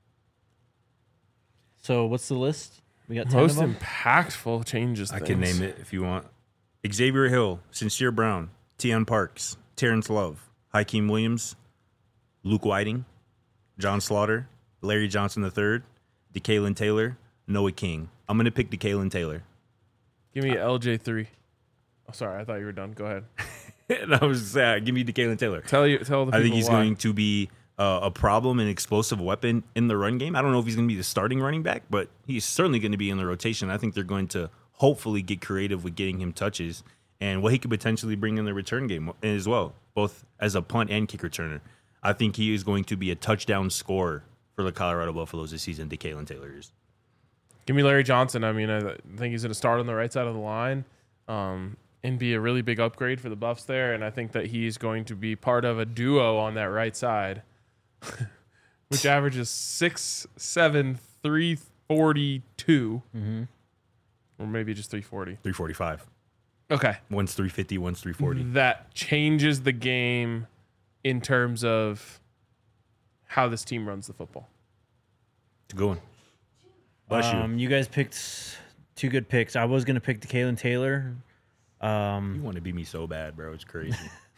So what's the list? We got 10 Most of them. impactful changes. I can name it if you want. Xavier Hill, Sincere Brown, Tion Parks, Terrence Love, Hakeem Williams, Luke Whiting, John Slaughter, Larry Johnson III, DeKalen Taylor, Noah King. I'm going to pick DeKalen Taylor. Give me LJ3. Oh, sorry, I thought you were done. Go ahead. And I was give me DeKalen Taylor. Tell the people I think he's why. going to be a problem and explosive weapon in the run game. I don't know if he's going to be the starting running back, but he's certainly going to be in the rotation. I think they're going to hopefully get creative with getting him touches and what he could potentially bring in the return game as well, both as a punt and kick returner. I think he is going to be a touchdown scorer for the Colorado Buffaloes this season. DeKalen Taylor is. Give me Larry Johnson. I mean, I think he's going to start on the right side of the line and be a really big upgrade for the Buffs there. And I think that he's going to be part of a duo on that right side, which averages 6'7", 342, or maybe just 340. 345. Okay. One's 350, one's 340. That changes the game in terms of how this team runs the football. It's a good one. Bless you. You guys picked two good picks. I was going to pick DeKalen Taylor. You want to beat me so bad, bro. It's crazy.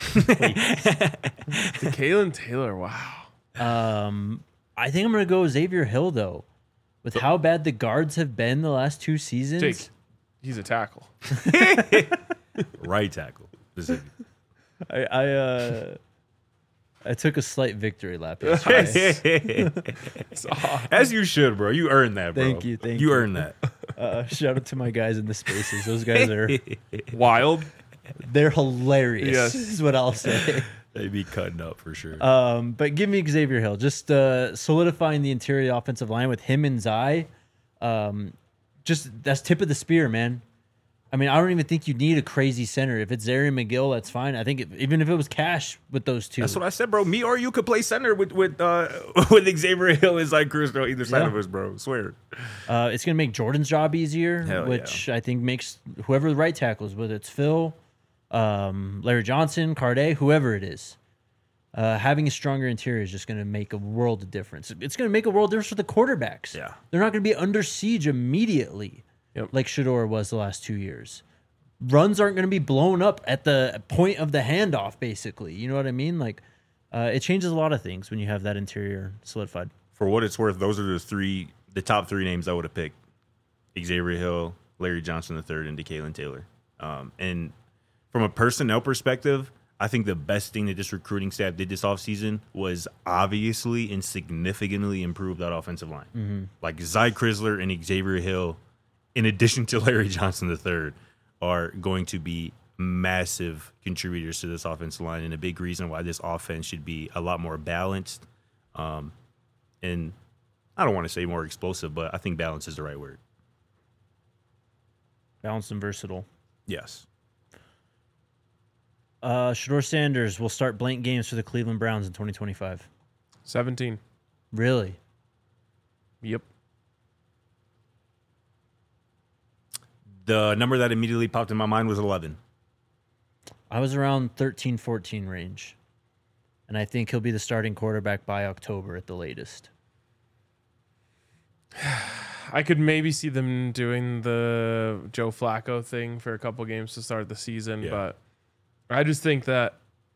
DeKalen Taylor, wow. I think I'm going to go Xavier Hill, though. With how bad the guards have been the last two seasons. Jake, he's a tackle. Right tackle. I took a slight victory lap yesterday. As you should, bro. You earned that, bro. Thank you. You earned that. Shout out to my guys in the spaces. Those guys are Wild. they're hilarious. Yes. Is what I'll say. They'd be cutting up for sure. But give me Xavier Hill. Just solidifying the interior offensive line with him and Zai. Just that's tip of the spear, man. I mean, I don't even think you need a crazy center. If it's Zarian McGill, that's fine. I think even if it was Cash with those two. That's what I said, bro. Me or you could play center with Xavier Hill and Zach Cruz on either side of us, bro. I swear. It's going to make Jordan's job easier, Hell which I think makes whoever the right tackle is, whether it's Phil, Larry Johnson, Cardet, whoever it is, having a stronger interior is just going to make a world of difference. It's going to make a world of difference for the quarterbacks. Yeah. They're not going to be under siege immediately like Shedeur was the last 2 years. Runs aren't going to be blown up at the point of the handoff, basically. You know what I mean? Like, it changes a lot of things when you have that interior solidified. For what it's worth, those are the top three names I would have picked. Xavier Hill, Larry Johnson III, and DeKalen Taylor. And from a personnel perspective, I think the best thing that this recruiting staff did this offseason was obviously and significantly improve that offensive line. Mm-hmm. Like Zy Chrysler and Xavier Hill, in addition to Larry Johnson III, are going to be massive contributors to this offensive line and a big reason why this offense should be a lot more balanced. And I don't want to say more explosive, but I think balance is the right word. Balanced and versatile. Yes. Shador Sanders will start blank games for the Cleveland Browns in 2025. 17. Really? Yep. The number that immediately popped in my mind was 11. I was around 13, 14 range. And I think he'll be the starting quarterback by October at the latest. I could maybe see them doing the Joe Flacco thing for a couple games to start the season, Yeah. but I just think that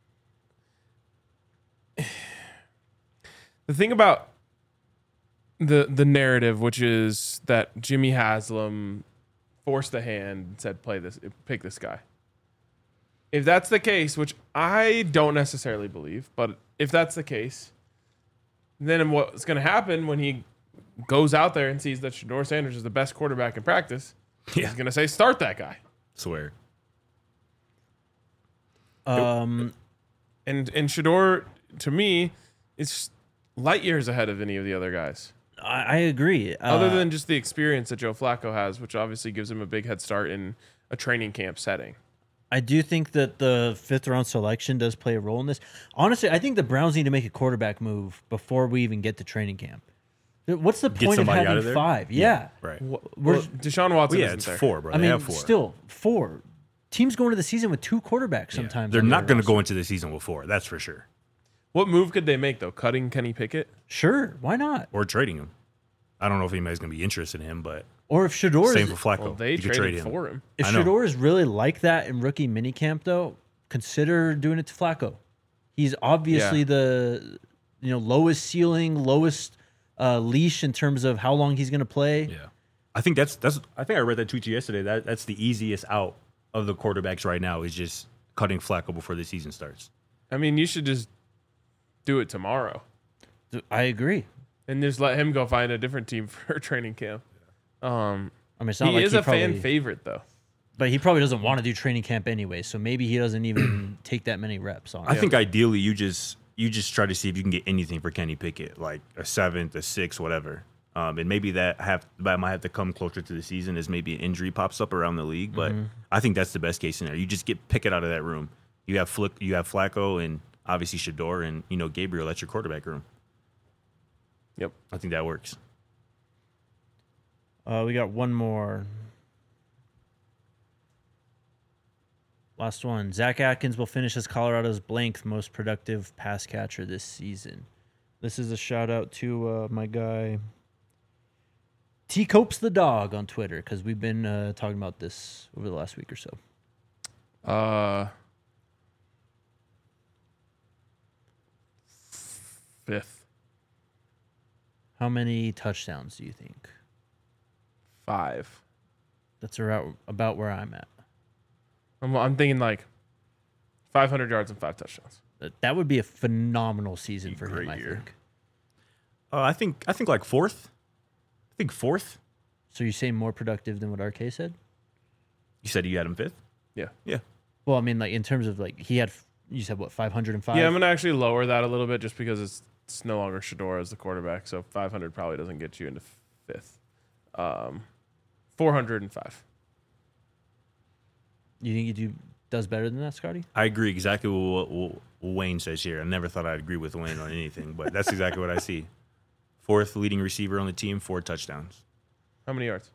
the thing about the narrative, which is that Jimmy Haslam forced the hand and said, pick this guy. If that's the case, which I don't necessarily believe, but if that's the case, then what's going to happen when he goes out there and sees that Shador Sanders is the best quarterback in practice, he's going to say, start that guy. Swear. And Shador, to me, is light years ahead of any of the other guys. I agree. Other than just the experience that Joe Flacco has, which obviously gives him a big head start in a training camp setting. I do think that the 5th round selection does play a role in this. Honestly, I think the Browns need to make a quarterback move before we even get to training camp. What's the point of somebody out having of there? 5? Yeah. Right. Deshaun Watson Yeah, isn't it's there. 4, bro. I They mean, have 4. still 4. Teams go into the season with 2 quarterbacks Yeah. sometimes. They're on not their going to roster. go into the season with 4. That's for sure. What move could they make, though? Cutting Kenny Pickett? Sure, why not? Or trading him. I don't know if anybody's going to be interested in him, but Or if Shador same is, for Flacco. Well, they you could trade traded him. for him. if I know. Shador is really like that in rookie minicamp, though, consider doing it to Flacco. He's obviously Yeah. the lowest ceiling, lowest leash in terms of how long he's going to play. Yeah. I think that's I think I read that tweet to you yesterday. That's the easiest out of the quarterbacks right now is just cutting Flacco before the season starts. I mean, you should just do it tomorrow I agree. and just let him go find a different team for training camp. I mean, it's not He like is he a probably, fan favorite, though. but he probably doesn't want to do training camp anyway. So maybe he doesn't even take that many reps on I it. think ideally you just try to see if you can get anything for Kenny Pickett, like a 7th, a 6th, whatever. And maybe that might have to come closer to the season as maybe an injury pops up around the league. But I think that's the best case scenario. You just get Pickett out of that room. You have Flacco and obviously Shador and Gabriel. That's your quarterback room. Yep. I think that works. We got one more. Last one. Zach Atkins will finish as Colorado's blank most productive pass catcher this season. This is a shout out to my guy T Copes the dog on Twitter because we've been talking about this over the last week or so. 5th. How many touchdowns do you think? 5. That's about where I'm at. I'm thinking like 500 yards and 5 touchdowns. That would be a phenomenal season for him, great I year. think. I think like 4th. I think 4th. So you say more productive than what RK said? You said you had him 5th? Yeah. Yeah. Well, I mean, like in terms of like he had, you said what, 505? Yeah, I'm going to actually lower that a little bit just because it's no longer Shador as the quarterback. So 500 probably doesn't get you into 5th. 405. You think he does better than that, Scotty? I agree exactly with what Wayne says here. I never thought I'd agree with Wayne on anything, but that's exactly what I see. 4th leading receiver on the team, 4 touchdowns. How many yards?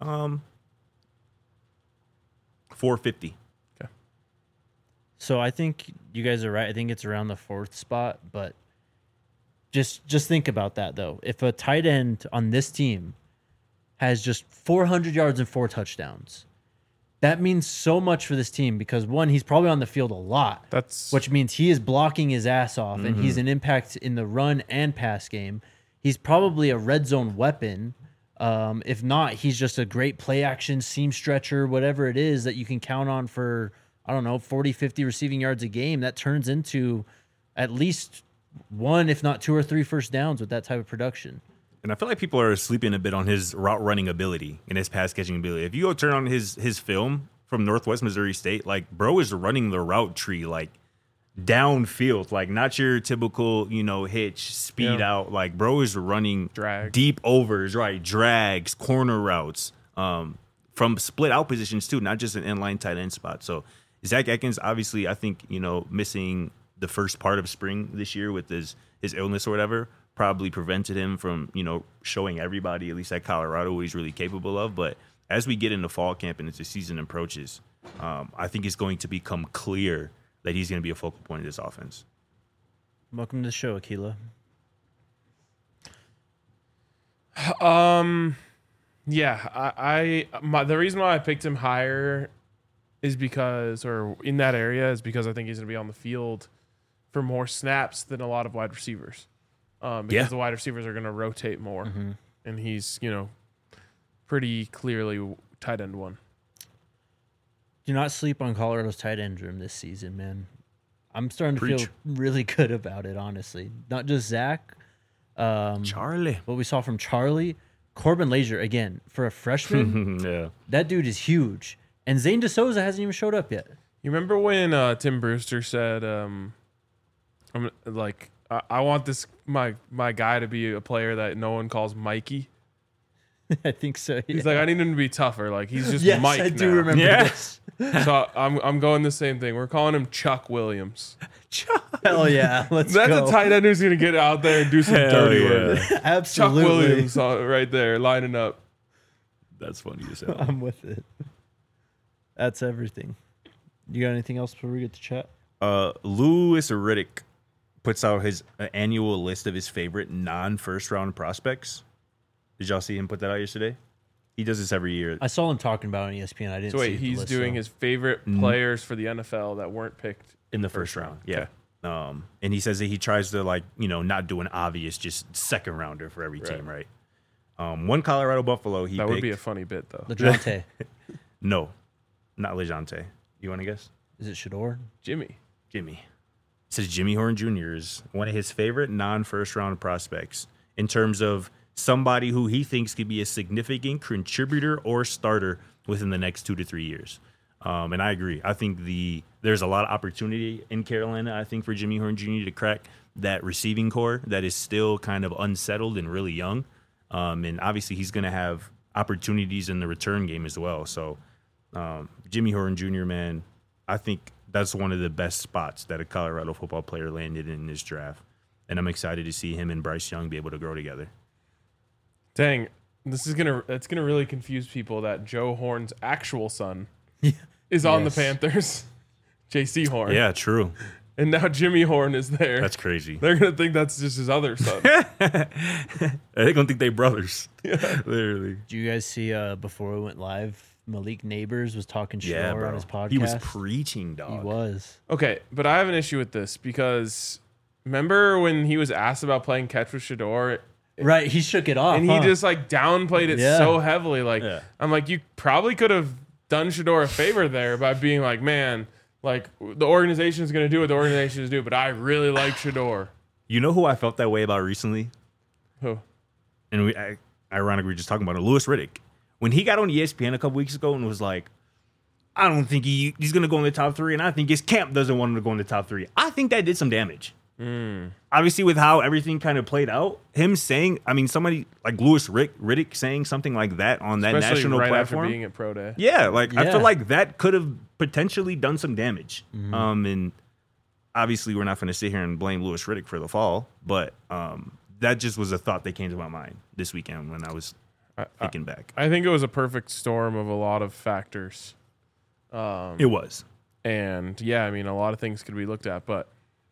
450. Okay. So I think you guys are right. I think it's around the 4th spot, but just think about that though. If a tight end on this team has just 400 yards and 4 touchdowns, that means so much for this team because one, he's probably on the field a lot, which means he is blocking his ass off and he's an impact in the run and pass game. He's probably a red zone weapon. If not, he's just a great play action seam stretcher, whatever it is that you can count on for, 40, 50 receiving yards a game. That turns into at least 1, if not 2 or 3 first downs with that type of production. And I feel like people are sleeping a bit on his route running ability and his pass catching ability. If you go turn on his film from Northwest Missouri State, like, bro is running the route tree, like, downfield, like, not your typical, hitch, speed out. Like, bro is running Drag. deep overs, right? Drags, corner routes, from split out positions, too, not just an inline tight end spot. So, Zach Ekins, obviously, I think, missing the first part of spring this year with his illness or whatever, probably prevented him from, showing everybody, at least at Colorado, what he's really capable of. But as we get into fall camp and as the season approaches, I think it's going to become clear that he's going to be a focal point of this offense. Welcome to the show, Aquila. Yeah, the reason why I picked him higher is because, or in that area, is because I think he's going to be on the field for more snaps than a lot of wide receivers. Because the wide receivers are going to rotate more, and he's pretty clearly tight end one. Do not sleep on Colorado's tight end room this season, man. I'm starting to Preach. feel really good about it, honestly. Not just Zach. Charlie. What we saw from Charlie. Corbin Lazier, again, for a freshman, Yeah. that dude is huge. And Zane DeSouza hasn't even showed up yet. You remember when Tim Brewster said, I want this my guy to be a player that no one calls Mikey. I think so. Yeah. He's like, I need him to be tougher. Like, he's just yes, Mike I do now. remember Yeah. this. So I'm going the same thing. We're calling him Chuck Williams. Hell yeah, let's That's go. a tight end who's gonna get out there and do some dirty work. Chuck Absolutely. Williams right there lining up. That's funny as hell. I'm with it. That's everything. You got anything else before we get to chat? Louis Riddick puts out his annual list of his favorite non-first round prospects. Did y'all see him put that out yesterday? He does this every year. I saw him talking about it on ESPN. I didn't So see wait, the he's list, doing so. his favorite players for the NFL that weren't picked. In the first round. Yeah. And he says that he tries to, not do an obvious just second rounder for every team, right? One Colorado Buffalo, he That picked. would be a funny bit though. LeJounte. No, not LeJounte. You want to guess? Is it Shador? Jimmy. Jimmy. Says Jimmy Horn Jr. is one of his favorite non-first round prospects in terms of somebody who he thinks could be a significant contributor or starter within the next 2 to 3 years. And I agree. I think there's a lot of opportunity in Carolina, I think, for Jimmy Horn Jr. to crack that receiving core that is still kind of unsettled and really young. And obviously he's going to have opportunities in the return game as well. So Jimmy Horn Jr., man, I think that's one of the best spots that a Colorado football player landed in this draft. And I'm excited to see him and Bryce Young be able to grow together. Dang, that's gonna really confuse people that Joe Horn's actual son is on the Yes. Panthers. JC Horn. Yeah, true. And now Jimmy Horn is there. That's crazy. They're gonna think that's just his other son. They're going to think they brothers. Literally. Did you guys see before we went live, Malik Neighbors was talking Yeah, Shador bro. on his podcast? He was preaching, dog. He was. Okay, but I have an issue with this because remember when he was asked about playing catch with Shador Right, he shook it off. and he just like downplayed it Yeah. so heavily. Like Yeah. I'm like, you probably could have done Shador a favor there by being like, man, like the organization is gonna do what the organization is do, but I really like Shador. You know who I felt that way about recently? Who? And ironically, we were just talking about it. Louis Riddick. When he got on ESPN a couple weeks ago and was like, I don't think he's going to go in the top 3, and I think his camp doesn't want him to go in the top 3. I think that did some damage. Obviously, with how everything kind of played out, him saying, somebody like Louis Riddick saying something like that on that Especially national right platform. after being at Pro Day. Yeah, like I Yeah. feel like that could have potentially done some damage. And obviously we're not going to sit here and blame Louis Riddick for the fall, but that just was a thought that came to my mind this weekend when I was thinking back. I think it was a perfect storm of a lot of factors. It was. And yeah, I mean, a lot of things could be looked at, but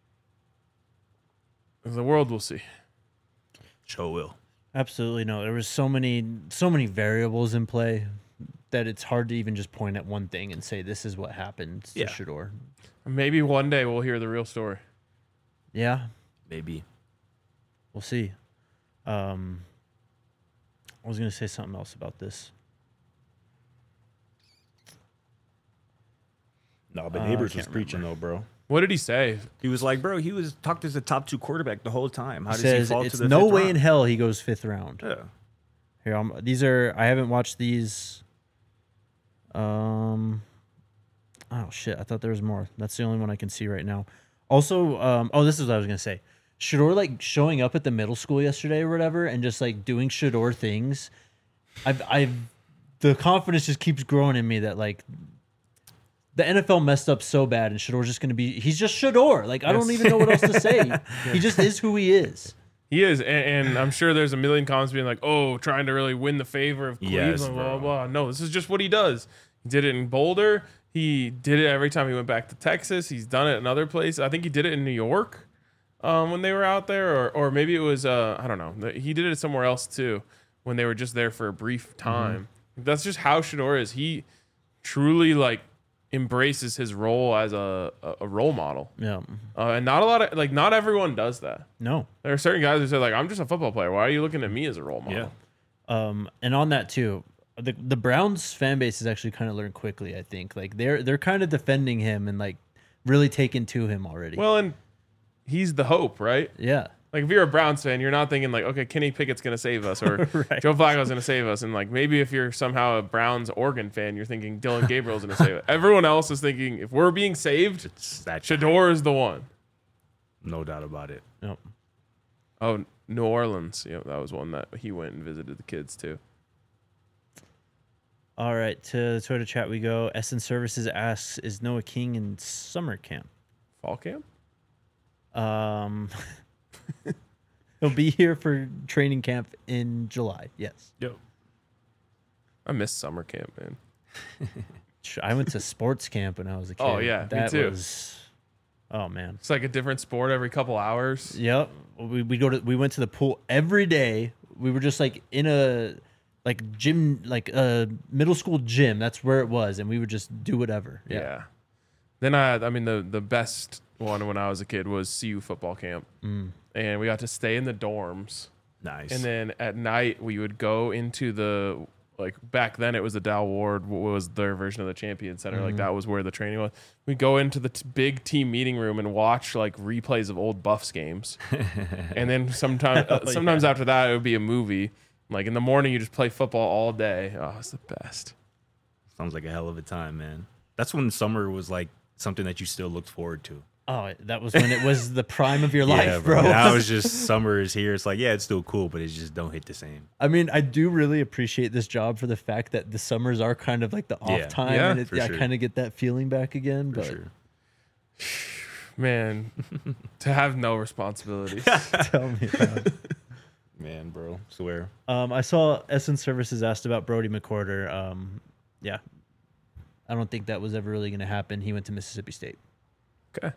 the world will see. Sure will. Absolutely no. There was so many variables in play that it's hard to even just point at one thing and say this is what happened to Yeah. Shador. Maybe one day we'll hear the real story. Yeah, Maybe. we'll see. I was gonna say something else about this. No, but I Neighbors can't was preaching though, bro. What did he say? He was like, bro, he was talked as a top 2 quarterback the whole time. How He does says he fall it's to the no 5th way round? in hell he goes 5th round. Yeah. Here, these are. I haven't watched these. Oh shit! I thought there was more. That's the only one I can see right now. Also, this is what I was gonna say. Shador like showing up at the middle school yesterday or whatever, and just like doing Shador things. The confidence just keeps growing in me that like the NFL messed up so bad, and Shador's just gonna be. He's just Shador. Like I don't even know what else to say. He just is who he is. He is, and I'm sure there's a million comments being like, "Oh, trying to really win the favor of Cleveland." Yes, blah bro. blah blah. No, this is just what he does. He did it in Boulder. He did it every time he went back to Texas. He's done it in other places. I think he did it in New York when they were out there, or maybe it was I don't know. He did it somewhere else too when they were just there for a brief time. That's just how Shador is. He truly like embraces his role as a role model. Yeah. And not a lot of like not everyone does that. No. There are certain guys who say like, I'm just a football player. Why are you looking at me as a role model? Yeah. And on that too, the Browns fan base has actually kind of learned quickly. I think like they're kind of defending him and like really taking to him already. Well, and he's the hope, right? Yeah. Like if you're a Browns fan, you're not thinking like, okay, Kenny Pickett's gonna save us or Right. Joe Flacco's gonna save us, and like maybe if you're somehow a Browns Oregon fan, you're thinking Dylan Gabriel's gonna save it. Everyone else is thinking if we're being saved, It's that Shador is the one. no doubt about it. No. Oh, New Orleans, that was one that he went and visited the kids too. All right, to the Twitter chat we go. Essence Services asks, "Is Noah King in summer camp?" Fall camp? He'll be here for training camp in July. Yes. Yo. I miss summer camp, man. I went to sports camp when I was a kid. Oh, yeah, me that too. was. Oh man. It's like a different sport every couple hours. Yep. We went to the pool every day. We were just like in a like gym, like a middle school gym. That's where it was, and we would just do whatever. Yeah. Then I mean, the best one when I was a kid was CU football camp, and we got to stay in the dorms. Nice. And then at night we would go into the like back then it was the Dow Ward was their version of the Champion Center. Like that was where the training was. We go into the big team meeting room and watch like replays of old Buffs games, and then sometimes after that it would be a movie. Like in the morning you just play football all day. Oh, it's the best. Sounds like a hell of a time, man. That's when summer was like something that you still looked forward to. Oh, that was when it was the prime of your life, bro. Now it's just summer is here. It's like, yeah, it's still cool, but it just don't hit the same. I mean, I do really appreciate this job for the fact that the summers are kind of like the off Yeah. time, Yeah, and for I sure. kind of get that feeling back again. For But sure. Man, to have no responsibilities. tell me about it. Man, bro. Swear. I saw Essence Services asked about Brody McCorder. Yeah, I don't think that was ever really going to happen. He went to Mississippi State. Okay.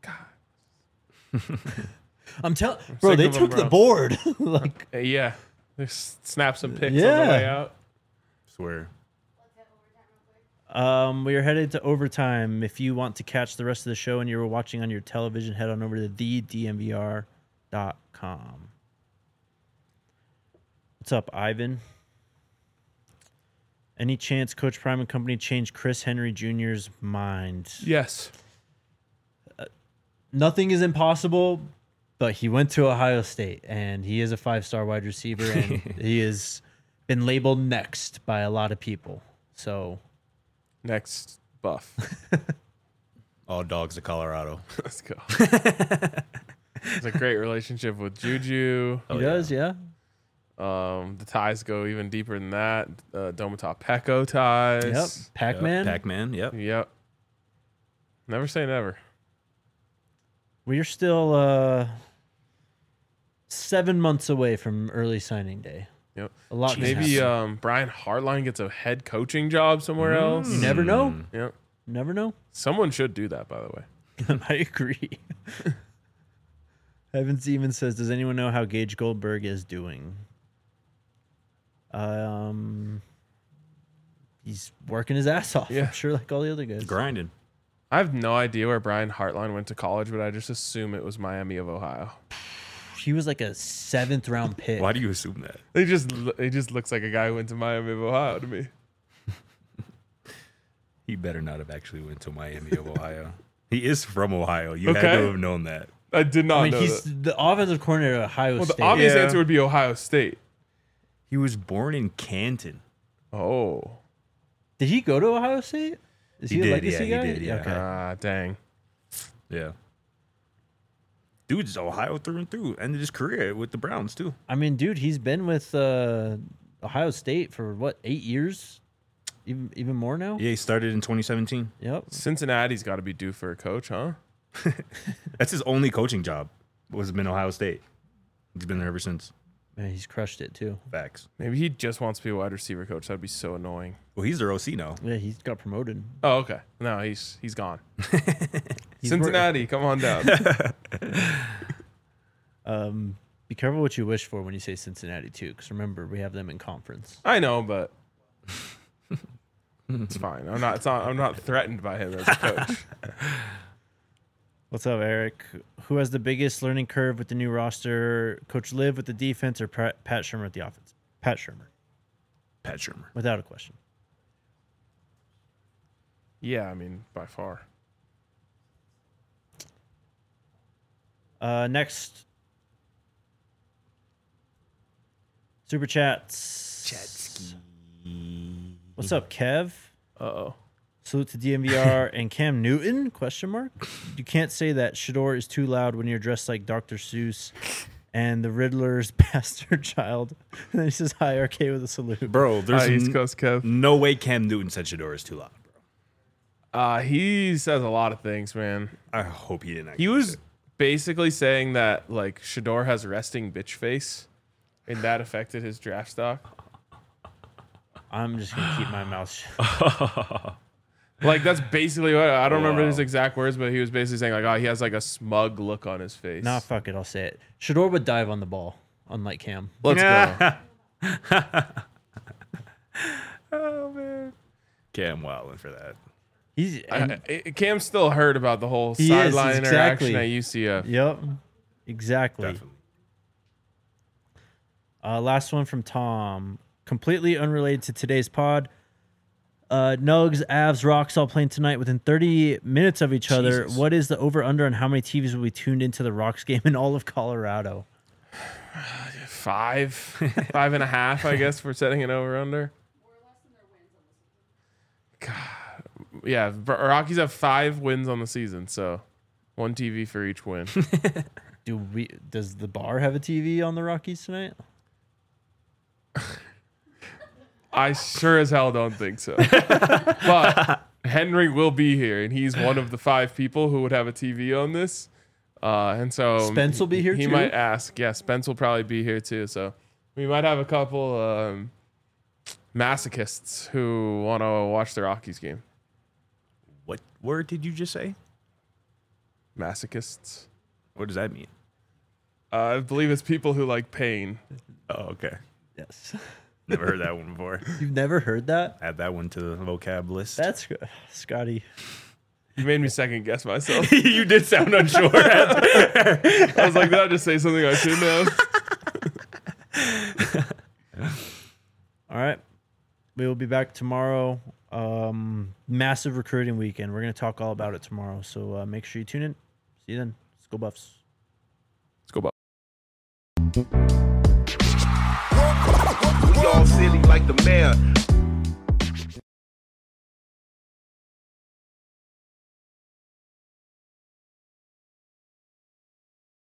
I'm telling, bro, sick they of 'em, took bro. the board. Like, Yeah. Just snap some pics on Yeah. the way out. Swear. we are headed to overtime. If you want to catch the rest of the show and you're watching on your television, head on over to thedmvr.com. What's up, Ivan? Any chance Coach Prime and company changed Chris Henry Jr.'s mind? Yes. Nothing is impossible, but he went to Ohio State, and he is a 5-star wide receiver, and he has been labeled next by a lot of people. So, Next buff. All dogs to Colorado. Let's go. It's a great relationship with Juju. he does, yeah. The ties go even deeper than that. Domata Peko ties. Yep. Pac-Man. Pac-Man, yep. Yep. Never say never. We're still 7 months away from early signing day. Yep. A lot can Maybe happen. Brian Hartline gets a head coaching job somewhere else. You never know. Yep. Never know. Someone should do that, by the way. I agree. Evans even says, "Does anyone know how Gage Goldberg is doing?" He's working his ass off. Yeah. I'm sure, like all the other guys. Grinding. I have no idea where Brian Hartline went to college, but I just assume it was Miami of Ohio. He was like a 7th round pick. Why do you assume that? He just looks like a guy who went to Miami of Ohio to me. He better not have actually went to Miami of Ohio. He is from Ohio. You had Okay. to have known that. I did not I mean, know he's that. the offensive coordinator at Ohio Well, the State. obvious Yeah. answer would be Ohio State. He was born in Canton. Oh. Did he go to Ohio State? Is He he, a did, legacy yeah, guy? he did, yeah. Okay. Dang. Yeah. Dude's Ohio through and through. Ended his career with the Browns, too. I mean, dude, he's been with Ohio State for what, 8 years? Even more now? Yeah, he started in 2017. Yep. Cincinnati's got to be due for a coach, huh? That's his only coaching job, was been Ohio State. He's been there ever since. Man, he's crushed it too. Facts. Maybe he just wants to be a wide receiver coach. That'd be so annoying. Well, he's their OC now. Yeah, he's got promoted. Oh, okay. No, he's gone. He's Cincinnati, come on down. Be careful what you wish for when you say Cincinnati too, because remember we have them in conference. I know, but it's fine. I'm not threatened by him as a coach. What's up, Eric? Who has the biggest learning curve with the new roster? Coach Liv with the defense or Pat Shurmur with the offense? Pat Shurmur, Pat Shurmur. without a question. Yeah, I mean, by far. Next. Super chats. What's up, Kev? Uh-oh. Salute to DMVR and Cam Newton? Question mark. You can't say that Shador is too loud when you're dressed like Dr. Seuss and the Riddler's bastard child. And then he says hi, RK with a salute. Bro, there's East Coast Kev. no way Cam Newton said Shador is too loud, bro. He says a lot of things, man. I hope he didn't. He was basically saying that like Shador has resting bitch face, and that affected his draft stock. I'm just gonna keep my mouth shut. Like that's basically what I don't remember Wow. his exact words, but he was basically saying like, oh, he has like a smug look on his face. Nah, fuck it. I'll say it. Shador would dive on the ball, unlike Cam. Let's go. Oh man, Cam wilding for that. He's Cam still heard about the whole He is, sideline exactly. interaction at UCF. yep, exactly. Definitely. Last one from Tom. Completely unrelated to today's pod. Nugs, Avs, Rocks all playing tonight within 30 minutes of each other. Jesus. What is the over-under on how many TVs will be tuned into the Rocks game in all of Colorado? 5.5, I guess, for setting it over under. God. Yeah, Rockies have 5 wins on the season, so 1 TV for each win. Does the bar have a TV on the Rockies tonight? I sure as hell don't think so. But Henry will be here, and he's one of the 5 people who would have a TV on this. And so Spence will be here he too? might ask. Yeah, Spence will probably be here too. So we might have a couple masochists who want to watch the Rockies game. What word did you just say? Masochists. What does that mean? I believe it's people who like pain. Oh, okay. Yes. Never heard that one before. You've never heard that? Add that one to the vocab list. That's good. Scotty. You made me second guess myself. You did sound unsure. I was like, did I just say something I shouldn't have? All right. We will be back tomorrow. Massive recruiting weekend. We're going to talk all about it tomorrow. So make sure you tune in. See you then. Let's go Buffs. Let's go, Bob. We all silly like the mayor.